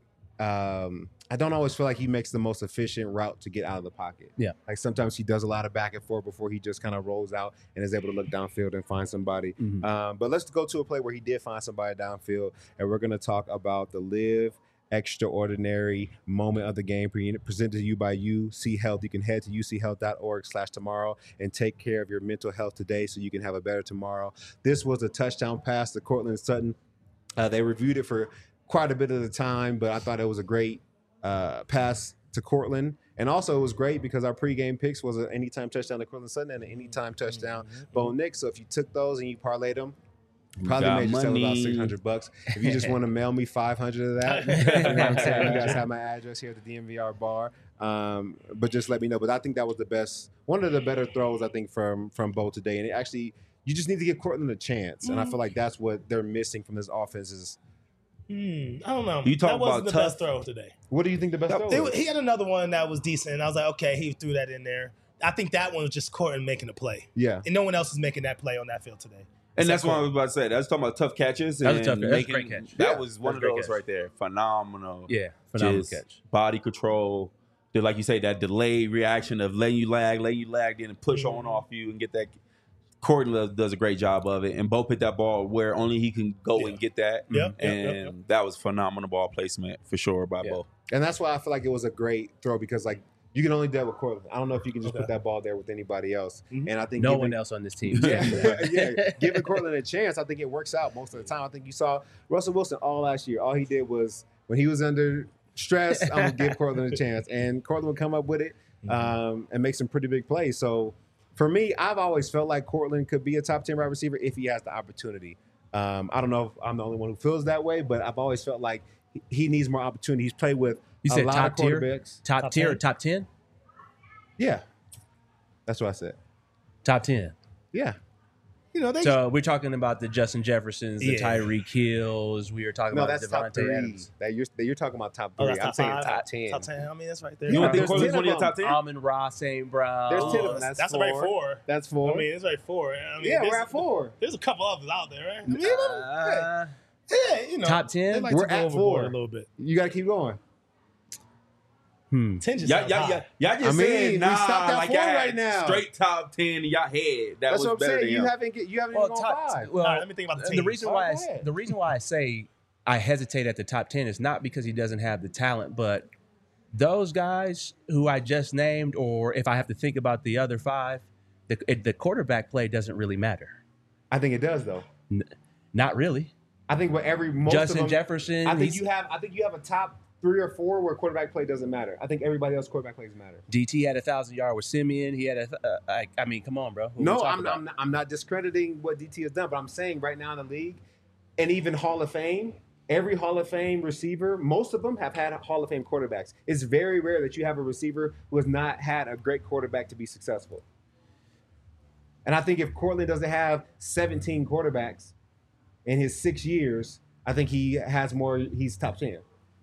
I don't always feel like he makes the most efficient route to get out of the pocket. Yeah, like sometimes he does a lot of back and forth before he just kind of rolls out and is able to look downfield and find somebody. Mm-hmm. But let's go to a play where he did find somebody downfield, and we're going to talk about the Live Extraordinary moment of the game presented to you by UC Health. You can head to uchealth.org/tomorrow and take care of your mental health today so you can have a better tomorrow. This was a touchdown pass to Cortland Sutton. They reviewed it for quite a bit of the time, but I thought it was a great pass to Cortland. And also it was great because our pregame picks was an anytime touchdown to Cortland Sutton and an anytime touchdown Bo Nix. So if you took those and you parlayed them, Probably Got made yourself about money. $600. If you just want to mail me 500 of that, you know what I'm saying? You guys have my address here at the DMVR bar. But just let me know. But I think that was the best, one of the better throws I think from Bo today. And it actually, you just need to give Cortland a chance. And I feel like that's what they're missing from this offense is. I don't know. You talk that wasn't about the tough. best throw today. What do you think the best throw is? He had another one that was decent, and I was like, okay, he threw that in there. I think that one was just Cortland making a play. Yeah. And no one else is making that play on that field today. And that's what I Cortland. was about to say. That's talking about tough catches. That was a and tough catch. That's a making- great catch. That Yeah. was one of That's a great those catch. right there. Phenomenal. Yeah, phenomenal Just catch. Body control. Like you say, that delayed reaction of letting you lag, then push on off you and get that. Cortland does a great job of it. And Bo put that ball where only he can go and get that. Yep, And that was phenomenal ball placement for sure by Bo. And that's why I feel like it was a great throw because, like, you can only do that with Cortland. I don't know if you can just put that ball there with anybody else. And I think No giving- one else on this team. yeah, giving Cortland a chance, I think it works out most of the time. I think you saw Russell Wilson all last year. All he did was when he was under stress, I'm gonna give Cortland a chance, and Cortland would come up with it and make some pretty big plays. So for me, I've always felt like Cortland could be a top 10 wide receiver if he has the opportunity. I don't know if I'm the only one who feels that way, but I've always felt like he needs more opportunity. He's played with You a said lot top of tier? quarterbacks. Top tier or 10? top 10? Yeah, that's what I said. Top 10. Yeah. You know, they So we're talking about the Justin Jeffersons, the Yeah. Tyreek Hills. We were talking No, about that's top Devontae 3. Adams. That you're talking about top 3. Oh, that's I'm top saying 5? top 10. Top 10. I mean, that's right there. You don't think There's Cortland's 10 one of your of top 10? Amon Ross, St. Brown. There's 10 of them. That's right, 4. That's 4. I mean, it's right 4. I mean, yeah, there's- we're at 4. There's a couple others out there, right? I mean, yeah, you know. Top 10? They like We're to go at overboard 4. a little bit. You got to keep going. 10 just Y'all sounds high. just I mean, said, we nah, stopped at like 4 y'all had right now. straight top 10 in y'all head. That That's was what I'm better saying. than You him. haven't even Well, gone top, 5. well, All right, let me think about the the teams. reason All why right. the reason why I say I hesitate at the top 10 is not because he doesn't have the talent, but those guys who I just named, or if I have to think about the other 5, the quarterback play doesn't really matter. I think it does though. Not really. I think most Justin of them, Jefferson. I think he's- you have a top 3 or 4 where quarterback play doesn't matter. I think everybody else quarterback plays matter. DT had 1,000-yard with Simeon. He had I mean, come on, bro. Who No, we talking about? I'm not discrediting what DT has done, but I'm saying right now in the league, and even Hall of Fame, every Hall of Fame receiver, most of them have had Hall of Fame quarterbacks. It's very rare that you have a receiver who has not had a great quarterback to be successful. And I think if Cortland doesn't have 17 quarterbacks in his 6 years, I think he has more. He's top 10.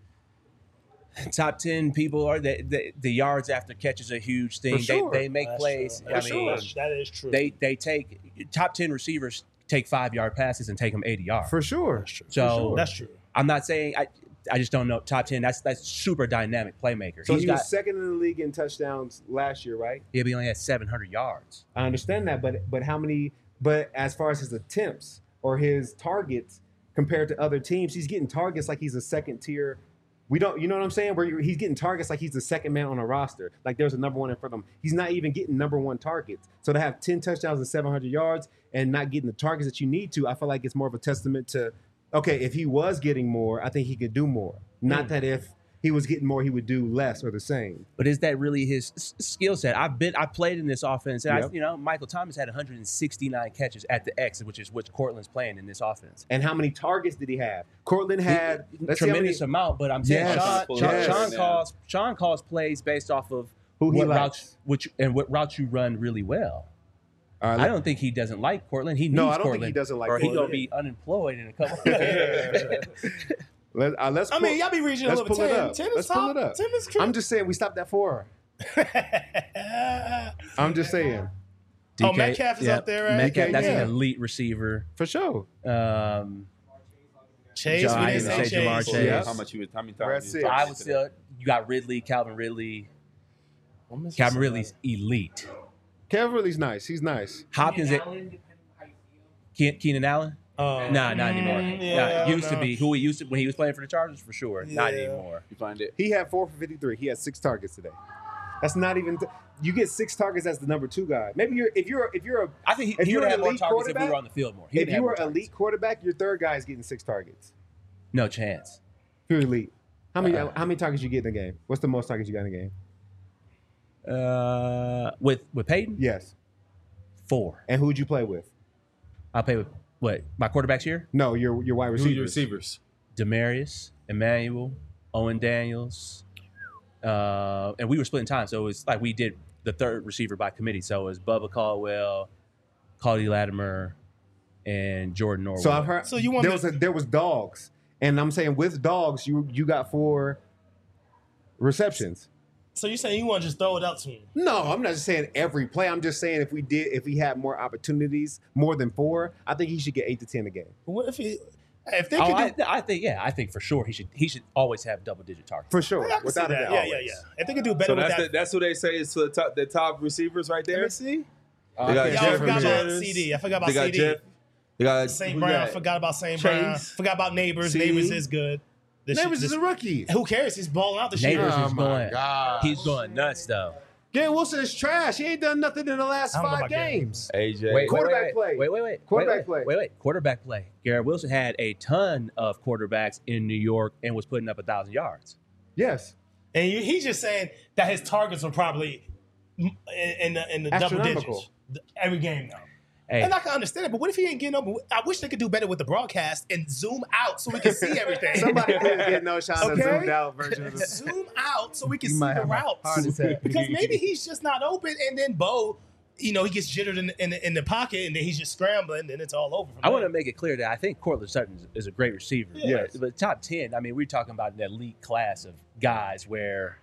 Top 10 people are the yards after catch is a huge thing. For sure. They make That's plays. true. I That's mean, true. That is true. they take top 10 receivers take 5-yard passes and take them 80 yards. For sure. That's true. So That's true. I'm not saying I just don't know top 10. That's super dynamic playmaker. So He's he got was second in the league in touchdowns last year, right? he only had 700 yards. I understand that, but how many? But as far as his attempts or his targets compared to other teams, he's getting targets like he's a second tier. We don't, you know what I'm saying? Where he's getting targets like he's the second man on a roster. Like there's a number one in front of him. He's not even getting number one targets. So to have 10 touchdowns and 700 yards and not getting the targets that you need to, I feel like it's more of a testament to, okay, if he was getting more, I think he could do more. Not that if he was getting more, he would do less or the same. But is that really his skill set? I played in this offense, and Yep. Michael Thomas had 169 catches at the X, which is what Cortland's playing in this offense. And how many targets did he have? Cortland had let's see how Tremendous many- amount, but I'm saying Yes, yes. Sean calls plays based off of Who he what likes. routes, what routes you run really well. All right, I don't think he doesn't like Cortland. He needs No, I don't think Cortland, he doesn't like or he Cortland. gonna be unemployed in a couple of years. let's I mean, y'all be reaching a let's little pull bit. it 10, up. 10 is Let's top. pull it up. 10 is true. I'm just saying we stopped at 4. I'm just saying. Oh, Metcalf is up there, right? Metcalf, that's Yeah. an elite receiver. For sure. Chase, John, we I didn't didn't say say Jamar Chase. Chase. Yes. How many We're at times? 6. I would still you got Ridley, Calvin Ridley. Calvin Ridley's elite. Kevin Ridley's nice. He's nice. Hopkins, Keenan Allen. Nah, not anymore. yeah, Used to no. be who he used to when he was playing for the Chargers for sure. Not Yeah. anymore. You find it? He had 4 for 53. He had 6 targets today. That's not even. You get 6 targets as the number 2 guy. Maybe if you're a I think If he you're would an have more elite targets if we quarterback- were on the field more. He if would have you more were targets. elite quarterback, your third guy is getting 6 targets. No chance. If you're elite, how many targets you get in a game? What's the most targets you got in a game? With Peyton, Yes. 4. And who'd you play with? I'll play with What, my quarterbacks here? No, your wide Who's your receivers. receivers? Demarius, Emmanuel, Owen Daniels, and we were splitting time, so it was like we did the third receiver by committee. So it was Bubba Caldwell, Cody Latimer, and Jordan Norwood. So I've heard. So you want there was dogs, and I'm saying with dogs, you got 4 receptions. So you're saying you want to just throw it out to him? No, I'm not just saying every play. I'm just saying if he had more opportunities, more than 4, I think he should get 8 to 10 a game. What if they could do? I think for sure he should always have double-digit targets. For sure, I can see without a that. doubt. Yeah. If they could do better So with that. that's what they say is the top receivers right there. Let me see. They got Yeah, I Jeff forgot about Ramirez. CD. I forgot about They got CD. Jeff. They got St. who Brown. got? I forgot about St. Chase. Brown. Forgot about Neighbors. CD. Neighbors is good. Neighbors is a rookie. Who cares? He's balling out the shit. Neighbors Oh is my going. gosh. He's going nuts though. Garrett Wilson is trash. He ain't done nothing in the last I don't know 5 about Garrett. games. AJ. Quarterback play. Wait. Quarterback play. Quarterback play. Garrett Wilson had a ton of quarterbacks in New York and was putting up 1,000 yards. Yes. And he's just saying that his targets were probably in the double Astronomical. digits every game now. Hey, And I can understand it, but what if he ain't getting over? I wish they could do better with the broadcast and zoom out so we can see everything. Somebody please get no shot of Okay. zoomed out version of this. Zoom out so we can see might the have a heart routes. attack. Because maybe he's just not open, and then Bo, he gets jittered in the pocket, and then he's just scrambling, and it's all over. I want to make it clear that I think Cortland Sutton is a great receiver. Yes. But top 10, I mean, we're talking about an elite class of guys where,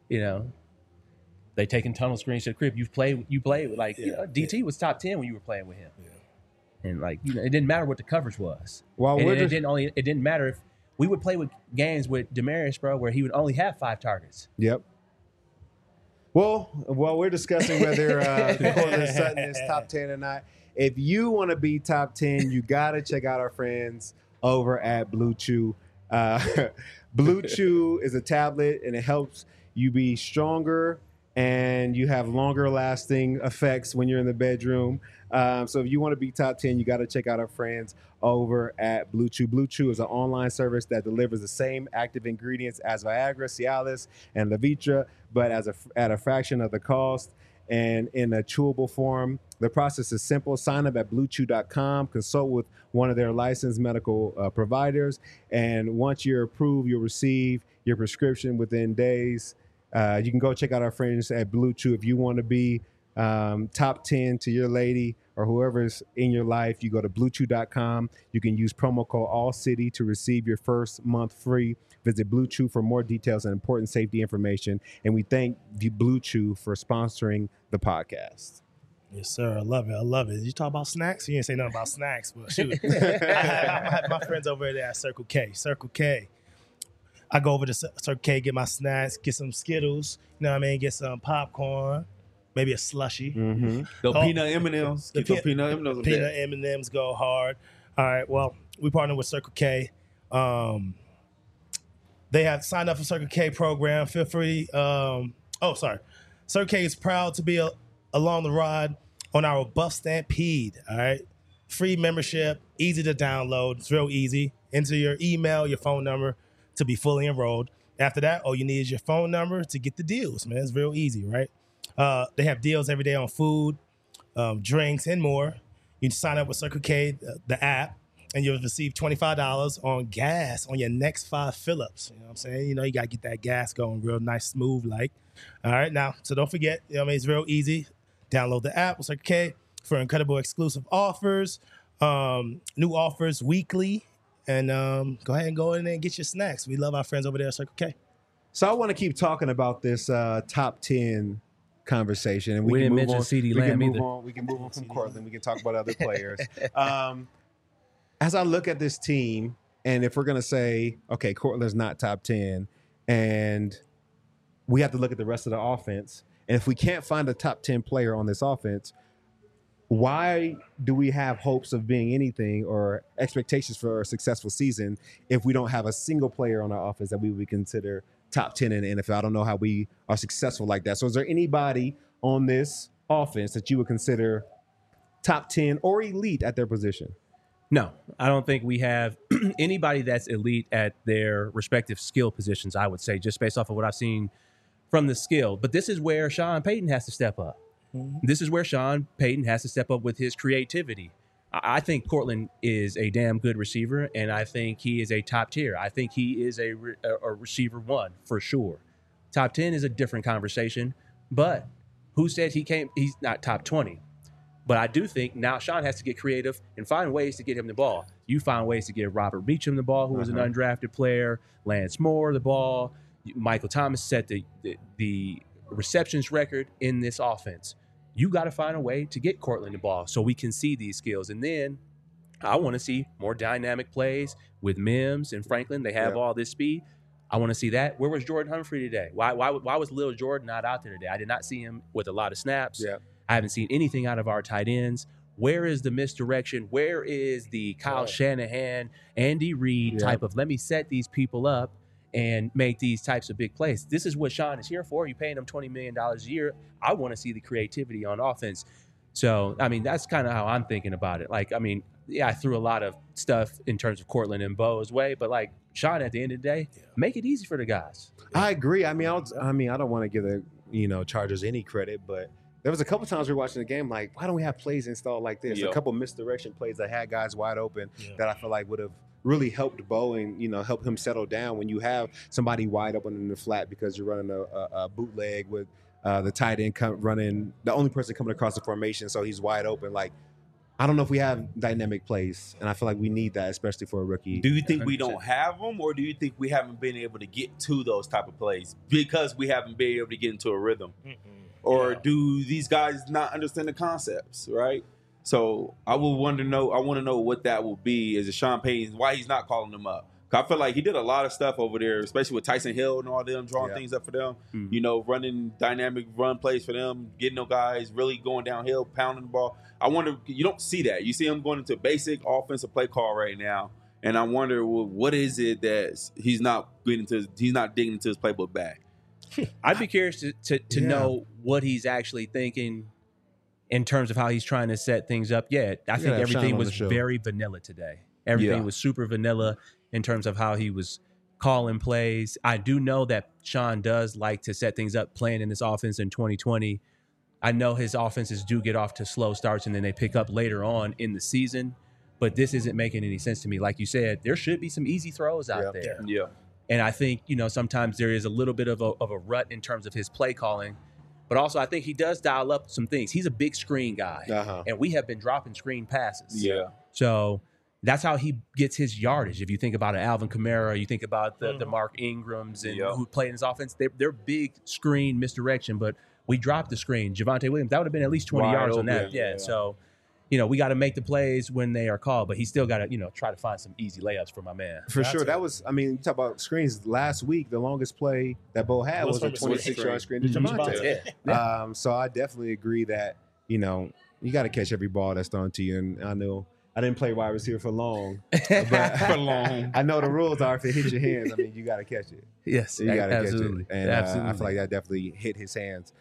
they taking tunnel screens to the crib. You play with like DT was top 10 when you were playing with him. Yeah. And it didn't matter what the coverage was. Well, And we're it just- didn't matter if we would play with games with Demarius, bro, where he would only have 5 targets. Yep. Well, while we're discussing whether Cortland Sutton is top 10 or not, if you want to be top 10, you got to check out our friends over at Blue Chew. Blue Chew is a tablet, and it helps you be stronger, and you have longer lasting effects when you're in the bedroom. So if you want to be top 10, you got to check out our friends over at Blue Chew. Blue Chew is an online service that delivers the same active ingredients as Viagra, Cialis, and Levitra, but at a fraction of the cost and in a chewable form. The process is simple. Sign up at bluechew.com, consult with one of their licensed medical providers, and once you're approved, you'll receive your prescription within days. You can go check out our friends at Blue Chew. If you want to be top 10 to your lady or whoever's in your life, you go to bluechew.com. You can use promo code ALLCITY to receive your first month free. Visit Blue Chew for more details and important safety information. And we thank Blue Chew for sponsoring the podcast. Yes, sir. I love it. I love it. Did you talk about snacks? You didn't say nothing about snacks, but shoot. I have my friends over there at Circle K. Circle K. I go over to Circle K, get my snacks, get some Skittles, get some popcorn, maybe a slushie. Mm-hmm. The peanut M&Ms. Get the peanut M&Ms. Peanut M&Ms go hard. All right, well, we partner with Circle K. They have signed up for Circle K program. Feel free. Circle K is proud to be along the ride on our Buff Stampede. All right, free membership, easy to download. It's real easy. Enter your email, your phone number to be fully enrolled. After that, all you need is your phone number to get the deals, man. It's real easy, right? They have deals every day on food, drinks, and more. You can sign up with Circle K, the app, and you'll receive $25 on gas on your next 5 fill-ups. You know what I'm saying? You got to get that gas going real nice, smooth like. All right, now, so don't forget, it's real easy. Download the app with Circle K for incredible exclusive offers, new offers weekly, and go ahead and go in there and get your snacks. We love our friends over there at Circle K. So I want to keep talking about this top 10 conversation, and We can didn't move mention on. CeeDee We can Lamb move either. on. We can move on from Cortland. We can talk about other players. As I look at this team, and if we're gonna say, okay, Cortland's not top 10, and we have to look at the rest of the offense, and if we can't find a top 10 player on this offense, why do we have hopes of being anything or expectations for a successful season if we don't have a single player on our offense that we would consider top 10 in the NFL? I don't know how we are successful like that. So is there anybody on this offense that you would consider top 10 or elite at their position? No, I don't think we have anybody that's elite at their respective skill positions, I would say, just based off of what I've seen from the skill. But this is where Sean Payton has to step up. Mm-hmm. This is where Sean Payton has to step up with his creativity. I think Cortland is a damn good receiver, and I think he is a top tier. I think he is a receiver 1 for sure. Top 10 is a different conversation, but who said he's not top 20? But I do think now Sean has to get creative and find ways to get him the ball. You find ways to get Robert Meacham the ball, who was an undrafted player, Lance Moore the ball. Michael Thomas set the receptions record in this offense. You got to find a way to get Cortland the ball so we can see these skills. And then I want to see more dynamic plays with Mims and Franklin. They have all this speed. I want to see that. Where was Jordan Humphrey today? Why was Lil Jordan not out there today? I did not see him with a lot of snaps. Yeah. I haven't seen anything out of our tight ends. Where is the misdirection? Where is the Kyle Shanahan, Andy Reid type of let me set these people up and make these types of big plays? This is what Sean is here for. You're paying him $20 million a year. I want to see the creativity on offense. So, I mean, that's kind of how I'm thinking about it. Like, I mean, yeah, I threw a lot of stuff in terms of Cortland and Bo's way, but like Sean, at the end of the day, make it easy for the guys. I agree. I mean, I don't want to give the Chargers any credit, but there was a couple times we were watching the game, like, why don't we have plays installed like this? A couple misdirection plays that had guys wide open that I feel like would have really helped Bo and, help him settle down when you have somebody wide open in the flat because you're running a bootleg with the tight end running, the only person coming across the formation, so he's wide open. Like, I don't know if we have dynamic plays, and I feel like we need that, especially for a rookie. Do you think 100%. We don't have them, or do you think we haven't been able to get to those type of plays because we haven't been able to get into a rhythm? Or do these guys not understand the concepts, right? So I want to know what that will be as a Sean Payton, why he's not calling them up. I feel like he did a lot of stuff over there, especially with Tyson Hill and all them, drawing things up for them, running dynamic run plays for them, getting those guys really going downhill, pounding the ball. I wonder, you don't see that. You see him going into basic offensive play call right now, and I wonder, well, what is it that he's not digging into his playbook back? I'd be curious to know what he's actually thinking in terms of how he's trying to set things up. Yeah, I think everything was very vanilla today. Everything was super vanilla in terms of how he was calling plays. I do know that Sean does like to set things up playing in this offense in 2020. I know his offenses do get off to slow starts and then they pick up later on in the season, but this isn't making any sense to me. Like you said, there should be some easy throws out there. Yeah. And I think, sometimes there is a little bit of a rut in terms of his play calling. But also, I think he does dial up some things. He's a big screen guy. And we have been dropping screen passes. Yeah. So that's how he gets his yardage. If you think about Alvin Kamara, you think about the Mark Ingrams and who played in his offense, they're big screen misdirection. But we dropped the screen. Javonte Williams, that would have been at least 20 yards on that. Yeah. So, we got to make the plays when they are called, but he still got to, try to find some easy layups for my man. For sure. That was, you talk about screens last week, the longest play that Bo had was a 26-yard screen to Javonte. So I definitely agree that, you got to catch every ball that's thrown to you. And I know I didn't play wide receiver for long, but I know the rules are if it hits your hands, you got to catch it. Yes, so you got to catch it. And I feel like that definitely hit his hands.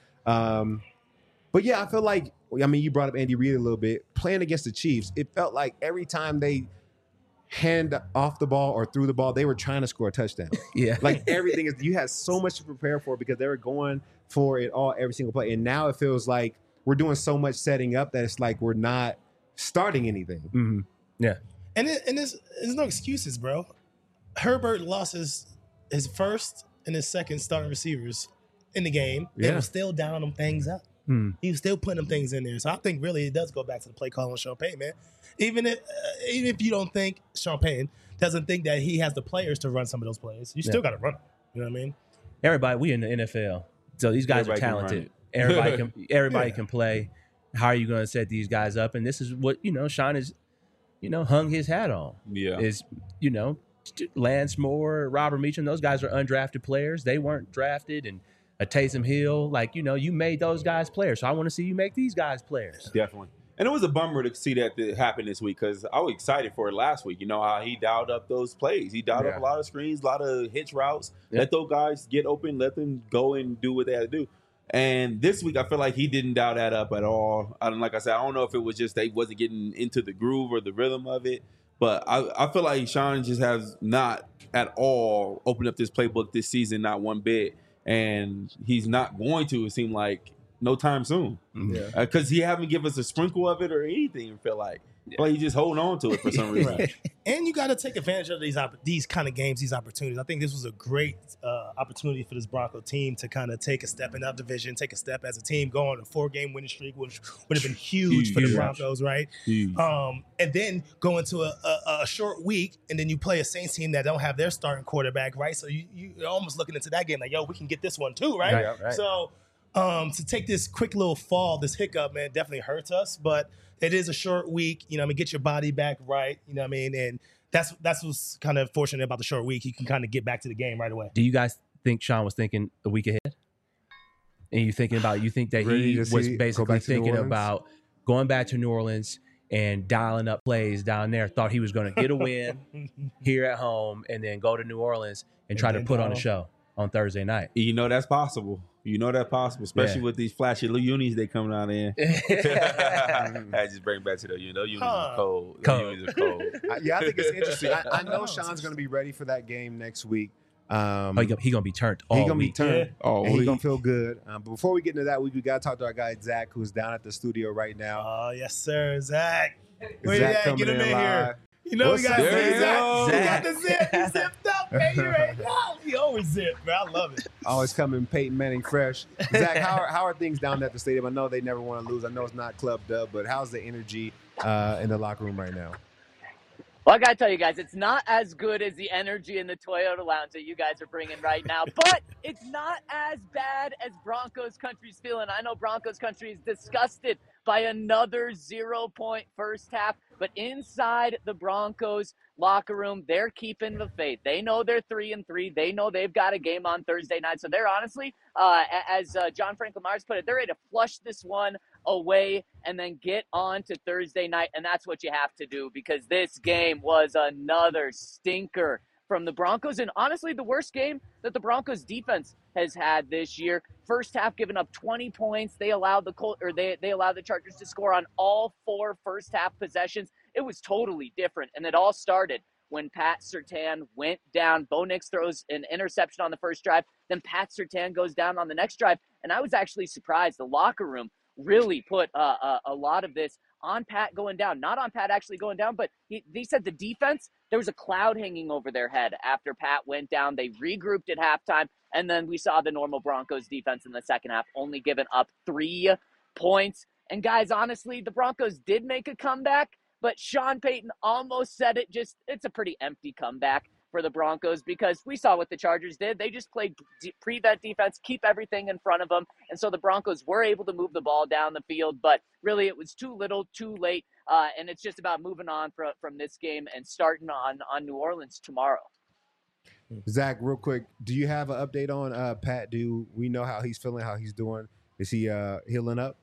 But yeah, I feel like, you brought up Andy Reid a little bit. Playing against the Chiefs, it felt like every time they hand off the ball or threw the ball, they were trying to score a touchdown. Yeah. Like everything you had so much to prepare for because they were going for it all every single play. And now it feels like we're doing so much setting up that it's like we're not starting anything. Mm-hmm. Yeah. And there's no excuses, bro. Herbert lost his first and his second starting receivers in the game. They were still dialing them things up. He was still putting them things in there. So I think really it does go back to the play call on Sean Payton, man. Even if you don't think Sean Payton doesn't think that he has the players to run some of those plays, you still got to run them. You know what I mean? Everybody, we in the NFL. So these guys are talented. Everybody can play. How are you going to set these guys up? And this is what, Sean is, hung his hat on. Yeah. Is, Lance Moore, Robert Meacham, those guys are undrafted players. They weren't drafted. And a Taysom Hill, you made those guys players. So I want to see you make these guys players. Definitely. And it was a bummer to see that happen this week because I was excited for it last week. How he dialed up those plays. He dialed up a lot of screens, a lot of hitch routes. Let those guys get open, let them go and do what they had to do. And this week, I feel like he didn't dial that up at all. Like I said, I don't know if it was just they wasn't getting into the groove or the rhythm of it. But I feel like Sean just has not at all opened up this playbook this season, not one bit. And he's not going to, it seemed like, no time soon. Because he haven't given us a sprinkle of it or anything, I feel like. Well, you just hold on to it for some reason. Right. And you got to take advantage of these kind of games, these opportunities. I think this was a great opportunity for this Bronco team to kind of take a step in that division, take a step as a team, go on a 4-game winning streak, which would have been huge for the Broncos, right? And then go into a short week, and then you play a Saints team that don't have their starting quarterback, right? So you're almost looking into that game like, yo, we can get this one too, right? Right. So to take this quick little fall, this hiccup, man, definitely hurts us, but it is a short week, get your body back right, and that's what's kind of fortunate about the short week. You can kind of get back to the game right away. Do you guys think Sean was thinking a week ahead? And you think that he was basically thinking about going back to New Orleans and dialing up plays down there, thought he was going to get a win here at home and then go to New Orleans and try to put on a show on Thursday night? That's possible. Especially with these flashy little unis they coming out in. I just bring back to the unis are cold. Unis are cold. I think it's interesting. I know Sean's going to be ready for that game next week. He gonna be turned. He's gonna be turned. Oh, he's gonna feel good. But before we get into that, we got to talk to our guy Zach, who's down at the studio right now. Oh yes, sir, Zach. Where Zach you at? Get him in here. We got to see Zach. He got the zip. He zipped up, baby, right now. He always zipped, bro. I love it. Always coming Peyton Manning fresh. Zach, how are things down at the stadium? I know they never want to lose. I know it's not Club Dub, but how's the energy in the locker room right now? Well, I got to tell you guys, it's not as good as the energy in the Toyota Lounge that you guys are bringing right now, but it's not as bad as Broncos Country's feeling. I know Broncos Country is disgusted by another 0-point first half, but inside the Broncos locker room, they're keeping the faith. They know they're 3-3. They know they've got a game on Thursday night. So they're honestly, as John Franklin Myers put it, they're ready to flush this one away and then get on to Thursday night. And that's what you have to do, because this game was another stinker from the Broncos, and honestly the worst game that the Broncos defense has had this year. First half giving up 20 points. They allowed they allowed the Chargers to score on all 4 first half possessions. It was totally different, and it all started when Pat Surtain went down. Bo Nix throws an interception on the first drive, then Pat Surtain goes down on the next drive, and I was actually surprised. The locker room really put a lot of this on Pat going down. Not on Pat actually going down, but they said the defense, there was a cloud hanging over their head after Pat went down. They regrouped at halftime, and then we saw the normal Broncos defense in the second half, only giving up 3 points. And guys, honestly, the Broncos did make a comeback, but Sean Payton almost said it. It's a pretty empty comeback for the Broncos, because we saw what the Chargers did. They just played prevent defense, keep everything in front of them. And so the Broncos were able to move the ball down the field, but really it was too little, too late. And it's just about moving on from this game and starting on New Orleans tomorrow. Zach, real quick, do you have an update on Pat? Do we know how he's feeling, how he's doing? Is he healing up?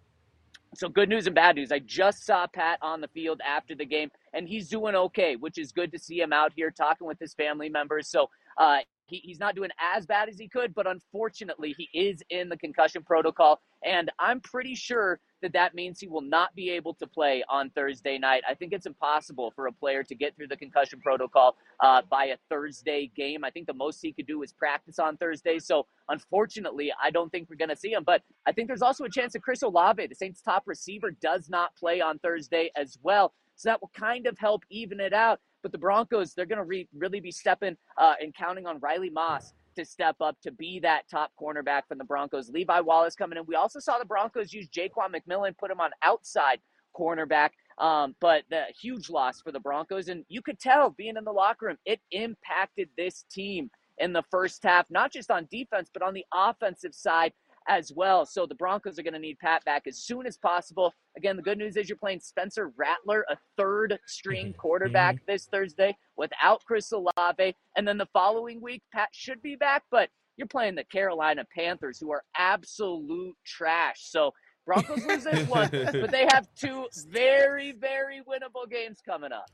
So good news and bad news. I just saw Pat on the field after the game, and he's doing okay, which is good to see him out here talking with his family members. So he's not doing as bad as he could, but unfortunately he is in the concussion protocol, and I'm pretty sure that means he will not be able to play on Thursday night. I think it's impossible for a player to get through the concussion protocol by a Thursday game. I think the most he could do is practice on Thursday. So unfortunately, I don't think we're going to see him. But I think there's also a chance that Chris Olave, the Saints' top receiver, does not play on Thursday as well. So that will kind of help even it out. But the Broncos, they're going to really be stepping and counting on Riley Moss to step up to be that top cornerback from the Broncos. Levi Wallace coming in. We also saw the Broncos use Jaquan McMillan, put him on outside cornerback. But the huge loss for the Broncos. And you could tell, being in the locker room, it impacted this team in the first half, not just on defense, but on the offensive side as well. So the Broncos are going to need Pat back as soon as possible. Again, the good news is you're playing Spencer Rattler, a third-string quarterback this Thursday without Chris Olave. And then the following week, Pat should be back, but you're playing the Carolina Panthers, who are absolute trash. So Broncos lose this one, but they have 2 very, very winnable games coming up.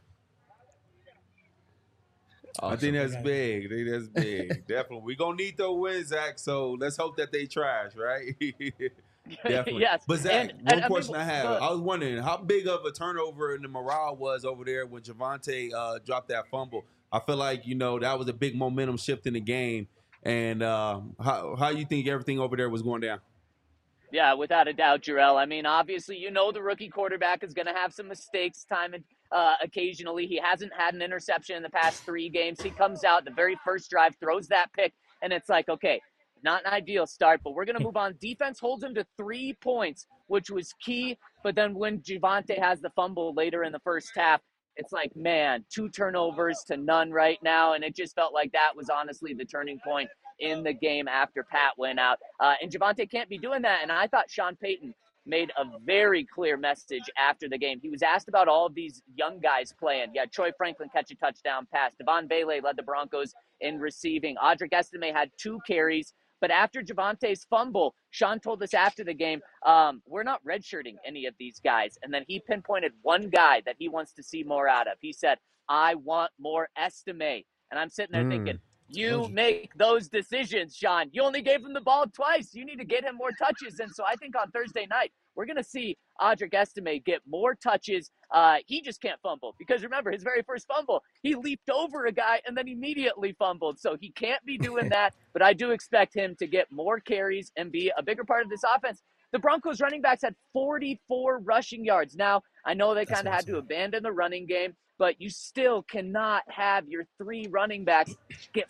Awesome. I think that's big. Definitely. We're going to need those wins, Zach, so let's hope that they trash, right? Definitely. Yes. But Zach, one question I have. I was wondering how big of a turnover in the morale was over there when Javonte dropped that fumble. I feel like, that was a big momentum shift in the game. And how you think everything over there was going down? Yeah, without a doubt, Jarrell. I mean, obviously, the rookie quarterback is going to have some mistakes occasionally. He hasn't had an interception in the past 3 games. He comes out the very first drive, throws that pick, and it's like, okay, not an ideal start, but we're going to move on. Defense holds him to 3 points, which was key. But then when Javonte has the fumble later in the first half, it's like, man, 2 turnovers to none right now. And it just felt like that was honestly the turning point in the game after Pat went out. And Javonte can't be doing that. And I thought Sean Payton made a very clear message after the game. He was asked about all of these young guys playing. Yeah, Troy Franklin catch a touchdown pass. Devon Bailey led the Broncos in receiving. Audric Estime had 2 carries. But after Javonte's fumble, Sean told us after the game, we're not redshirting any of these guys. And then he pinpointed one guy that he wants to see more out of. He said, I want more Estime. And I'm sitting there thinking, you make those decisions, Sean. You only gave him the ball twice. You need to get him more touches. And so I think on Thursday night, we're going to see Audric Estime get more touches. He just can't fumble because remember, his very first fumble, he leaped over a guy and then immediately fumbled. So he can't be doing that, but I do expect him to get more carries and be a bigger part of this offense. The Broncos running backs had 44 rushing yards. Now, I know they kind of had to abandon the running game, but you still cannot have your 3 running backs get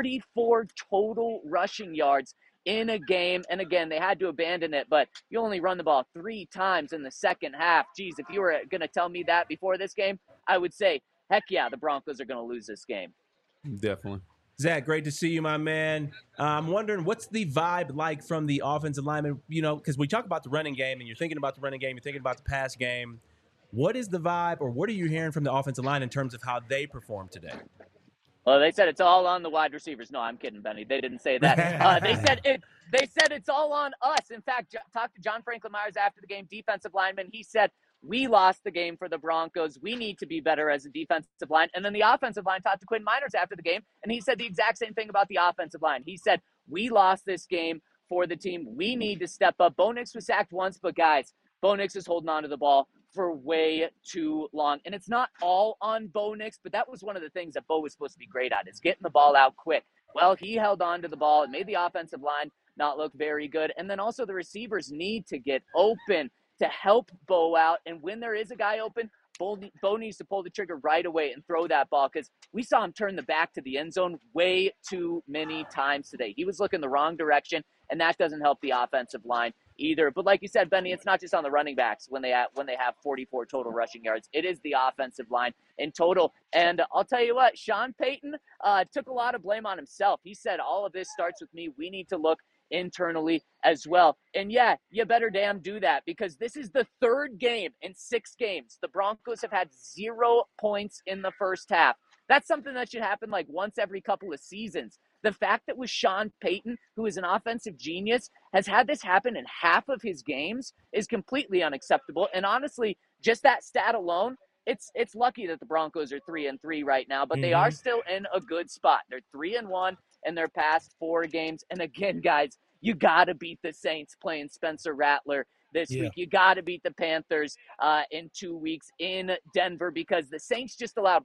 44 total rushing yards in a game. And again, they had to abandon it, but you only run the ball 3 times in the second half. Geez, if you were going to tell me that before this game, I would say, heck yeah, the Broncos are going to lose this game. Definitely. Zach, great to see you, my man. I'm wondering, what's the vibe like from the offensive linemen? Because we talk about the running game, and you're thinking about the running game, you're thinking about the pass game. What is the vibe, or what are you hearing from the offensive line in terms of how they performed today? Well, they said it's all on the wide receivers. No, I'm kidding, Benny. They didn't say that. They said it's all on us. In fact, talked to John Franklin Myers after the game, defensive lineman. He said, we lost the game for the Broncos. We need to be better as a defensive line. And then the offensive line talked to Quinn Miners after the game, and he said the exact same thing about the offensive line. He said, we lost this game for the team. We need to step up. Bo Nix was sacked once, but guys, Bo Nix is holding on to the ball for way too long. And it's not all on Bo Nix, but that was one of the things that Bo was supposed to be great at, is getting the ball out quick. Well, he held on to the ball. It made the offensive line not look very good. And then also the receivers need to get open to help Bo out. And when there is a guy open, Bo needs to pull the trigger right away and throw that ball, because we saw him turn the back to the end zone way too many times today. He was looking the wrong direction, and that doesn't help the offensive line either. But like you said, Benny, it's not just on the running backs when they have 44 total rushing yards. It is the offensive line in total. And I'll tell you what, Sean Payton took a lot of blame on himself. He said, all of this starts with me. We need to look internally as well. And yeah, you better damn do that, because this is the 3rd game in 6 games. The Broncos have had 0 points in the first half. That's something that should happen like once every couple of seasons. The fact that with Sean Payton, who is an offensive genius, has had this happen in half of his games is completely unacceptable. And honestly, just that stat alone, it's lucky that the Broncos are 3-3 right now, but they are still in a good spot. They're 3-1 in their past 4 games. And again, guys, you got to beat the Saints playing Spencer Rattler this week. You got to beat the Panthers in 2 weeks in Denver, because the Saints just allowed,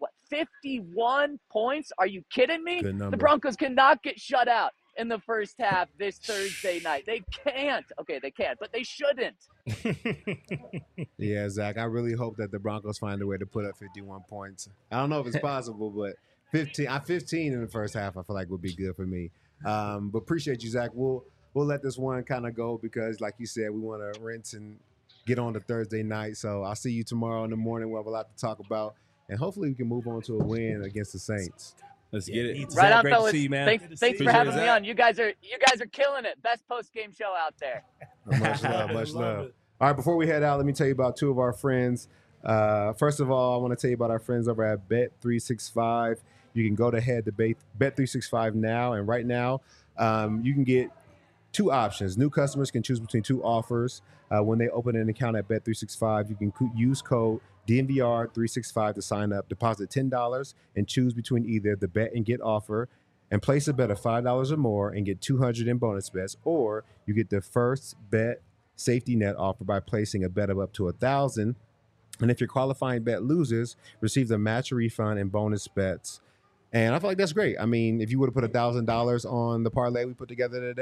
51 points? Are you kidding me? The Broncos cannot get shut out in the first half this Thursday night. They can't. Okay, they can't, but they shouldn't. Yeah, Zach, I really hope that the Broncos find a way to put up 51 points. I don't know if it's possible, but 15 in the first half I feel like would be good for me. But appreciate you, Zach. We'll let this one kind of go because, like you said, we want to rinse and get on to Thursday night. So I'll see you tomorrow in the morning. We'll have a lot to talk about, and hopefully we can move on to a win against the Saints. Let's get it. Right Zach, on, great fellas. to see you, man. Thanks for having me on. You guys are killing it. Best post-game show out there. Much love, much love. All right, before we head out, let me tell you about 2 of our friends. First of all, I want to tell you about our friends over at Bet365. You can go ahead to Bet365 now, and right now you can get 2 options. New customers can choose between 2 offers. When they open an account at Bet365, you can use code DNVR365 to sign up, deposit $10, and choose between either the bet and get offer and place a bet of $5 or more and get $200 in bonus bets, or you get the first bet safety net offer by placing a bet of up to $1,000. And if your qualifying bet loses, receive the match refund and bonus bets. And I feel like that's great. I mean, if you would have put $1,000 on the parlay we put together today,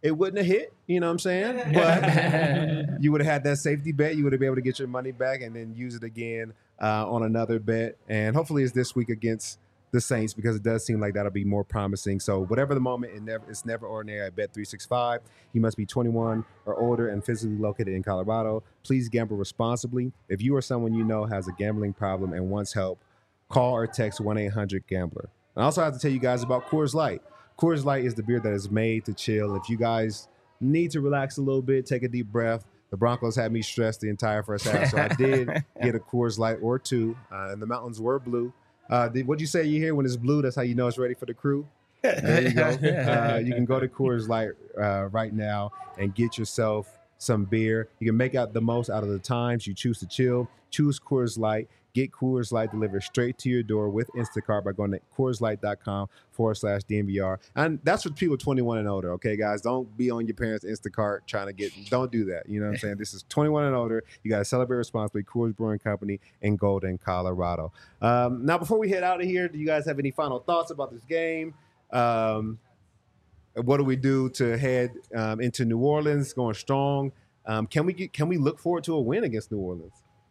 it wouldn't have hit. You know what I'm saying? But you would have had that safety bet. You would have been able to get your money back and then use it again on another bet. And hopefully it's this week against the Saints, because it does seem like that'll be more promising. So whatever the moment, it's never ordinary at Bet365. You must be 21 or older and physically located in Colorado. Please gamble responsibly. If you or someone you know has a gambling problem and wants help, call or text 1-800-GAMBLER. I also have to tell you guys about Coors Light. Coors Light is the beer that is made to chill. If you guys need to relax a little bit, take a deep breath. The Broncos had me stressed the entire first half, so I did get a Coors Light or two, and the mountains were blue. What'd you say you hear when it's blue? That's how you know it's ready for the crew. There you go. You can go to Coors Light right now and get yourself some beer. You can make out the most out of the times you choose to chill. Choose Coors Light. Get Coors Light delivered straight to your door with Instacart by going to CoorsLight.com/DNVR. And that's for people 21 and older, okay, guys? don't be on your parents' Instacart trying to don't do that. You know what I'm saying? This is 21 and older. You got to celebrate responsibly. Coors Brewing Company in Golden, Colorado. Now, before we head out of here, do you guys have any final thoughts about this game? What do we do to head into New Orleans going strong? Can we look forward to a win against New Orleans?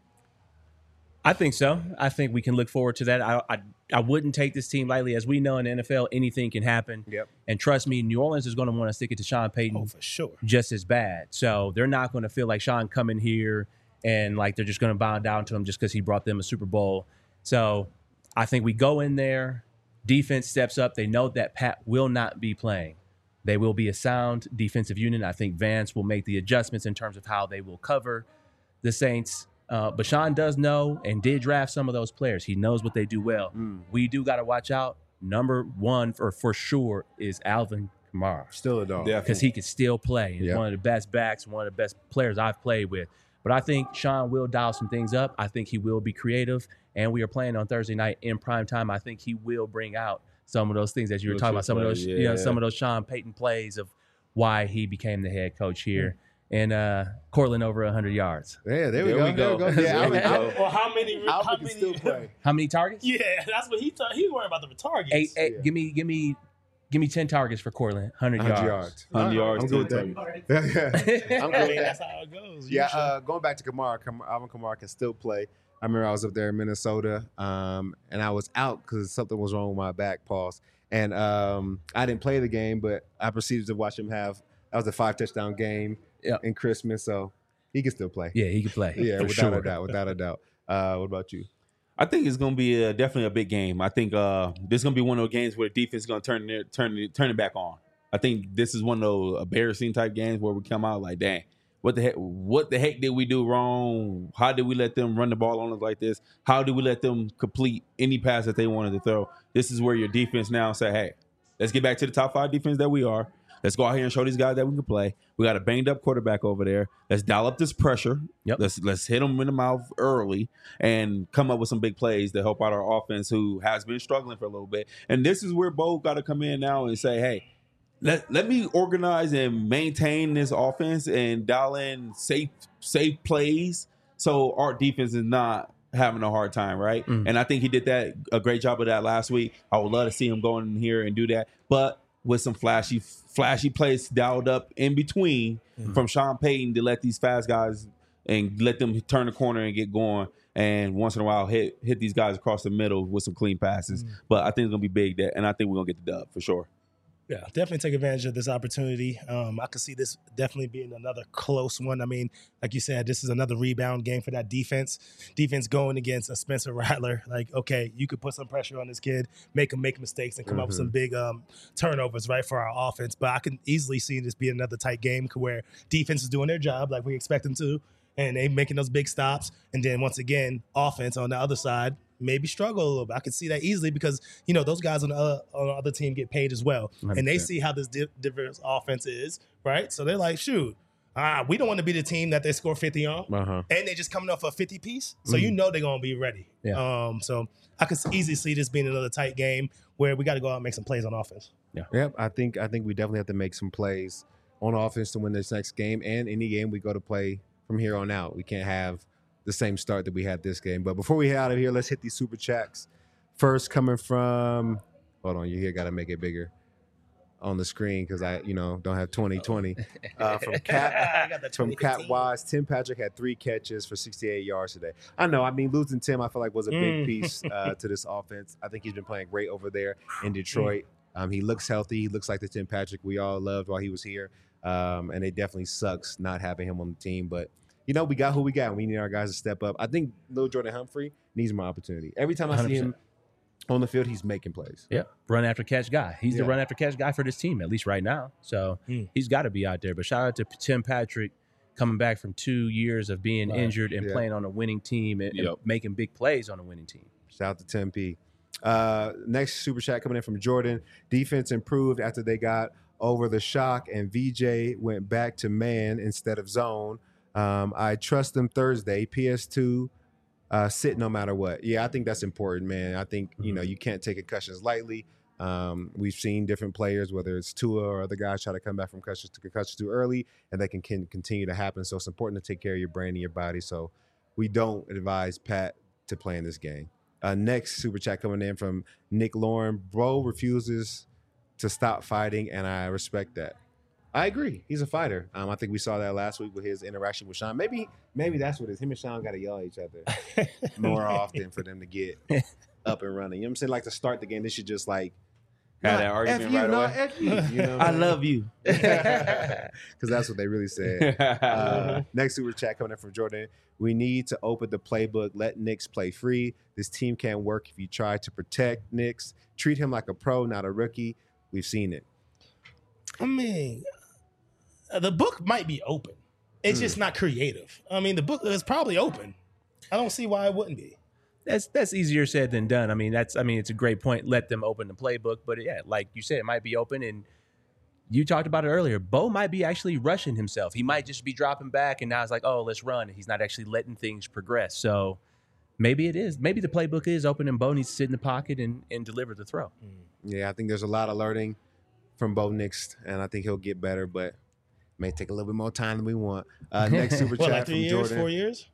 I think so. I think we can look forward to that. I wouldn't take this team lightly. As we know in the NFL, anything can happen. Yep. And trust me, New Orleans is going to want to stick it to Sean Payton for sure, just as bad. So they're not going to feel like Sean coming here and like they're just going to bow down to him just because he brought them a Super Bowl. So I think we go in there, defense steps up. They know that Pat will not be playing. They will be a sound defensive unit. I think Vance will make the adjustments in terms of how they will cover the Saints. But Sean does know and did draft some of those players. He knows what they do well. We do got to watch out. Number one for sure is Alvin Kamara. Still a dog. Because he could still play. He's one of the best backs, one of the best players I've played with. But I think Sean will dial some things up. I think he will be creative. And we are playing on Thursday night in prime time. I think he will bring out some of those things that you were talking about, some of those, some of those Sean Payton plays of why he became the head coach here. And Cortland over 100 yards. Yeah, there we go. Yeah, well, how many still play? How many targets? Yeah, that's what he worried about, the targets. Eight. Give me 10 targets for Cortland. 100 yards. 100 yards. I'm good with that. I'm good. That's how it goes. Yeah, going back to Kamara, Alvin Kamara can still play. I remember I was up there in Minnesota, and I was out because something was wrong with my back, pause. And I didn't play the game, but I proceeded to watch him have. That was a 5-touchdown game. In Christmas, so he can still play. Yeah, he can play. Yeah, without a doubt. What about you? I think it's going to be definitely a big game. I think this is going to be one of those games where the defense is going to turn it back on. I think this is one of those embarrassing type games where we come out like, dang, what the heck did we do wrong? How did we let them run the ball on us like this? How did we let them complete any pass that they wanted to throw? This is where your defense now say, hey, let's get back to the top 5 defense that we are. Let's go out here and show these guys that we can play. We got a banged up quarterback over there. Let's dial up this pressure. Yep. Let's hit them in the mouth early and come up with some big plays to help out our offense, who has been struggling for a little bit. And this is where Bo got to come in now and say, hey, let me organize and maintain this offense and dial in safe plays so our defense is not having a hard time, right? And I think he did a great job of that last week. I would love to see him go in here and do that. But with some flashy plays dialed up in between from Sean Payton to let these fast guys and let them turn the corner and get going. And once in a while hit these guys across the middle with some clean passes. But I think it's going to be big, and I think we're going to get the dub for sure. Yeah, definitely take advantage of this opportunity. I could see this definitely being another close one. I mean, like you said, this is another rebound game for that defense. Defense going against a Spencer Rattler. Like, okay, you could put some pressure on this kid, make him make mistakes, and come up with some big turnovers, right, for our offense. But I can easily see this be another tight game where defense is doing their job like we expect them to, and they making those big stops. And then once again, offense on the other side maybe struggle a little bit. I could see that easily because, those guys on the other team get paid as well. 100%. And they see how this diverse offense is, right? So they're like, shoot, we don't want to be the team that they score 50 on. And they're just coming off a 50 piece. So they're going to be ready. Yeah. So I could easily see this being another tight game where we got to go out and make some plays on offense. Yeah. Yep. I think we definitely have to make some plays on offense to win this next game, and any game we go to play from here on out. We can't have the same start that we had this game. But before we head out of here, let's hit these super chats. First, coming from, hold on, you here got to make it bigger. on the screen because I don't have 2020. From Cap Wise, Tim Patrick had 3 catches for 68 yards today. I know. I mean, losing Tim, I feel like was a big piece to this offense. I think he's been playing great over there in Detroit. He looks healthy. He looks like the Tim Patrick we all loved while he was here. And it definitely sucks not having him on the team. But, we got who we got. We need our guys to step up. I think Lil Jordan Humphrey needs more opportunity. Every time I 100%. See him on the field, he's making plays. Yeah, run after catch guy. He's the run after catch guy for this team, at least right now. So he's got to be out there. But shout out to Tim Patrick coming back from 2 years of being injured and playing on a winning team and making big plays on a winning team. Shout out to Tim P. Next super chat coming in from Jordan. Defense improved after they got over the shock and VJ went back to man instead of zone. I trust them Thursday. PS2 sit no matter what. Yeah, I think that's important, man. I think, you can't take concussions lightly. We've seen different players, whether it's Tua or other guys, try to come back from concussions too early, and that can continue to happen. So it's important to take care of your brain and your body. So we don't advise Pat to play in this game. Next super chat coming in from Nick Lauren. Bro refuses to stop fighting, and I respect that. I agree. He's a fighter. I think we saw that last week with his interaction with Sean. Maybe that's what it is. Him and Sean got to yell at each other more often for them to get up and running. You know what I'm saying? Like to start the game, they should just like have that argument right away. F you. I love you. Because that's what they really said. Next super chat coming in from Jordan. We need to open the playbook. Let Knicks play free. This team can't work if you try to protect Knicks. Treat him like a pro, not a rookie. We've seen it. I mean, the book might be open. It's just not creative. I mean, the book is probably open. I don't see why it wouldn't be. That's easier said than done. I mean, it's a great point. Let them open the playbook, but yeah, like you said, it might be open. And you talked about it earlier. Bo might be actually rushing himself. He might just be dropping back, and now it's like, oh, let's run. He's not actually letting things progress. So maybe it is. Maybe the playbook is open, and Bo needs to sit in the pocket and deliver the throw. Yeah, I think there's a lot of learning from Bo Nix, and I think he'll get better, but it may take a little bit more time than we want. Next super chat like 3 from years, Jordan. 4 years?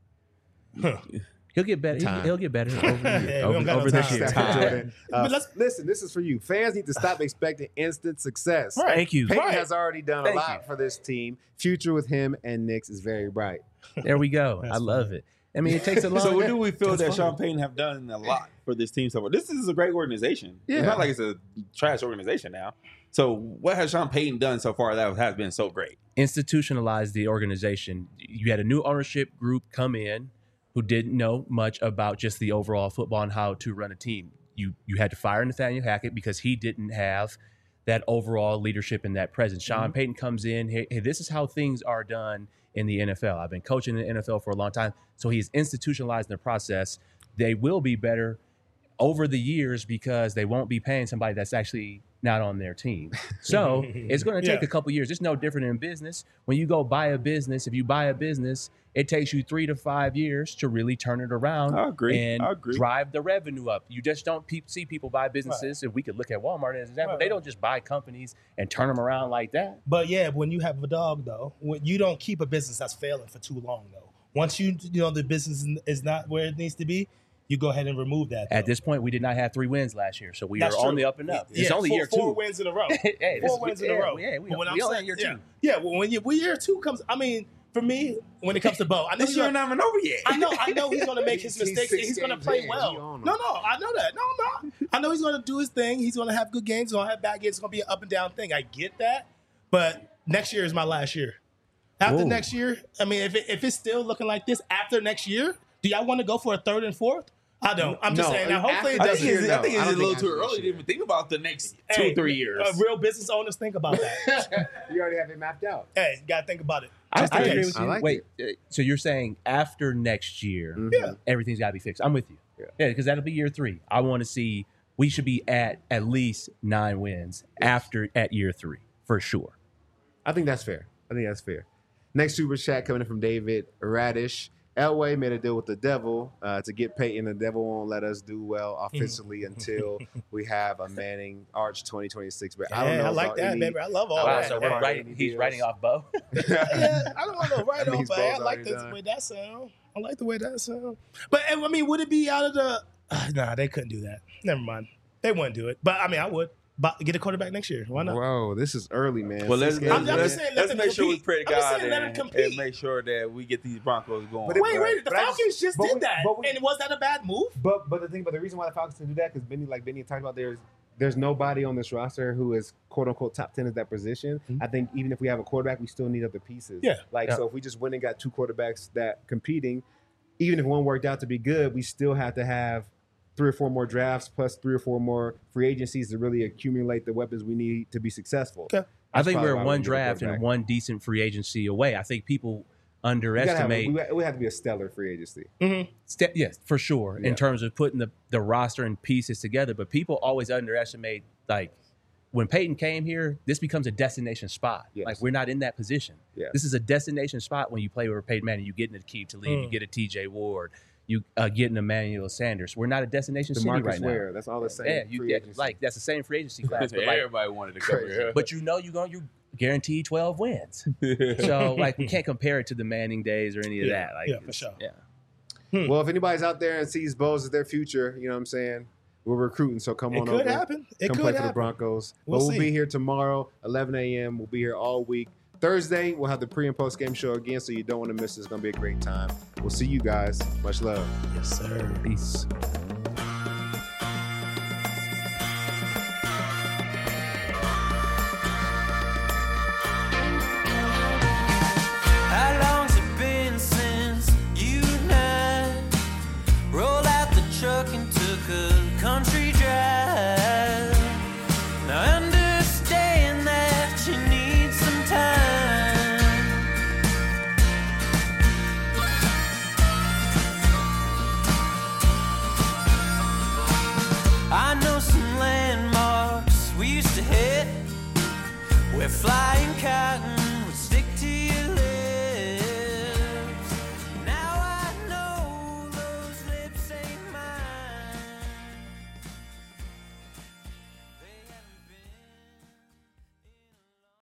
Huh. He'll get better. He'll get better over this year. Jordan. Listen, this is for you. Fans need to stop expecting instant success. Right. Thank you. Peyton has already done a lot for this team. Future with him and Knicks is very bright. There we go. I love it. I mean, it takes a long So what do we feel that Sean Payton have done a lot for this team so far? This is a great organization. Yeah. It's not like it's a trash organization now. So what has Sean Payton done so far that has been so great? Institutionalized the organization. You had a new ownership group come in who didn't know much about just the overall football and how to run a team. You had to fire Nathaniel Hackett because he didn't have that overall leadership and that presence. Sean Payton comes in, hey, this is how things are done in the NFL. I've been coaching in the NFL for a long time. So he's institutionalized the process. They will be better over the years because they won't be paying somebody that's actually not on their team. So it's going to take a couple years. It's no different in business. When you go buy a business, if you buy a business, it takes you 3 to 5 years to really turn it around and drive the revenue up. You just don't see people buy businesses. If we could look at Walmart as an example, they don't just buy companies and turn them around like that. But yeah, when you have a dog, though, you don't keep a business that's failing for too long, though. Once the business is not where it needs to be, you go ahead and remove that. At this point, we did not have 3 wins last year, so we are on the up and up. It's only year 2. 4 wins in a row. 4 wins in a row. Yeah, we only year 2. Yeah, well, when year 2 comes, I mean, for me, when it comes to Bo, I know this year not even over yet. I know he's going to make his mistakes. And he's going to play well. No, I know that. No. I know he's going to do his thing. He's going to have good games. He's going to have bad games. It's going to be an up and down thing. I get that. But next year is my last year. After next year, I mean, if it's still looking like this after next year, do y'all want to go for a 3rd and 4th? I don't. I'm just saying. Now, hopefully it doesn't. I think it's a little too early to even think about the next 2-3 years. Real business owners think about that. You already have it mapped out. Hey, you got to think about it. I agree with you. Wait, so you're saying after next year, everything's got to be fixed. I'm with you. Yeah, because that'll be year 3. I want to see, we should be at least 9 wins at year 3, for sure. I think that's fair. Next super chat coming in from David Radish. Elway made a deal with the devil to get Peyton. The devil won't let us do well offensively until we have a Manning Arch 2026. But I don't know. I like that, baby. I love all that. So he's writing off Bo. Yeah, I don't want to write off, but I like the way that sound. But I mean, would it be out of the? Nah, they couldn't do that. Never mind. They wouldn't do it. But I mean, I would. get a quarterback next year. Why not? Whoa, this is early, man. Well, let's just saying, let them make sure we compete. pray to I'm just God saying, let them compete. and make sure that we get these Broncos going. But Wait, the But I Falcons just but did we- that. but we- And was that a bad move? But the reason why the Falcons can do that because Benny talked about there's nobody on this roster who is quote unquote top 10 at that position. Mm-hmm. I think even if we have a quarterback, we still need other pieces. Yeah. So if we just went and got two quarterbacks that competing, even if one worked out to be good, we still have to have 3 or 4 more drafts plus 3 or 4 more free agencies to really accumulate the weapons we need to be successful. Okay. I think probably we're why we one need a draft and quarterback. one decent free agency away. I think people We underestimate. have to be a stellar free agency. Yes, for sure. Yeah. In terms of putting the roster and pieces together, but people always underestimate like when Peyton came here, this becomes a destination spot. Yes. Like we're not in that position. Yes. This is a destination spot when you play with Peyton Manning. You get in a Key to leave. You get a TJ Ward. You get an Emmanuel Sanders. We're not a destination city DeMarcus right Ware, now. that's all the same. Yeah, free agency. like that's the same free agency class. But like, Everybody wanted to come here. but you guaranteed 12 wins. So like we can't compare it to the Manning days or any of that. Like, for sure. Yeah. Well, if anybody's out there and sees Bose as their future, you know what I'm saying? We're recruiting, so come on over. It could happen. It Come could play for happen. the Broncos. We'll We'll see. be here tomorrow, 11 a.m. We'll be here all week. Thursday, we'll have the pre- and post-game show again, so you don't want to miss it. It's going to be a great time. We'll see you guys. Much love. Yes, sir. Peace.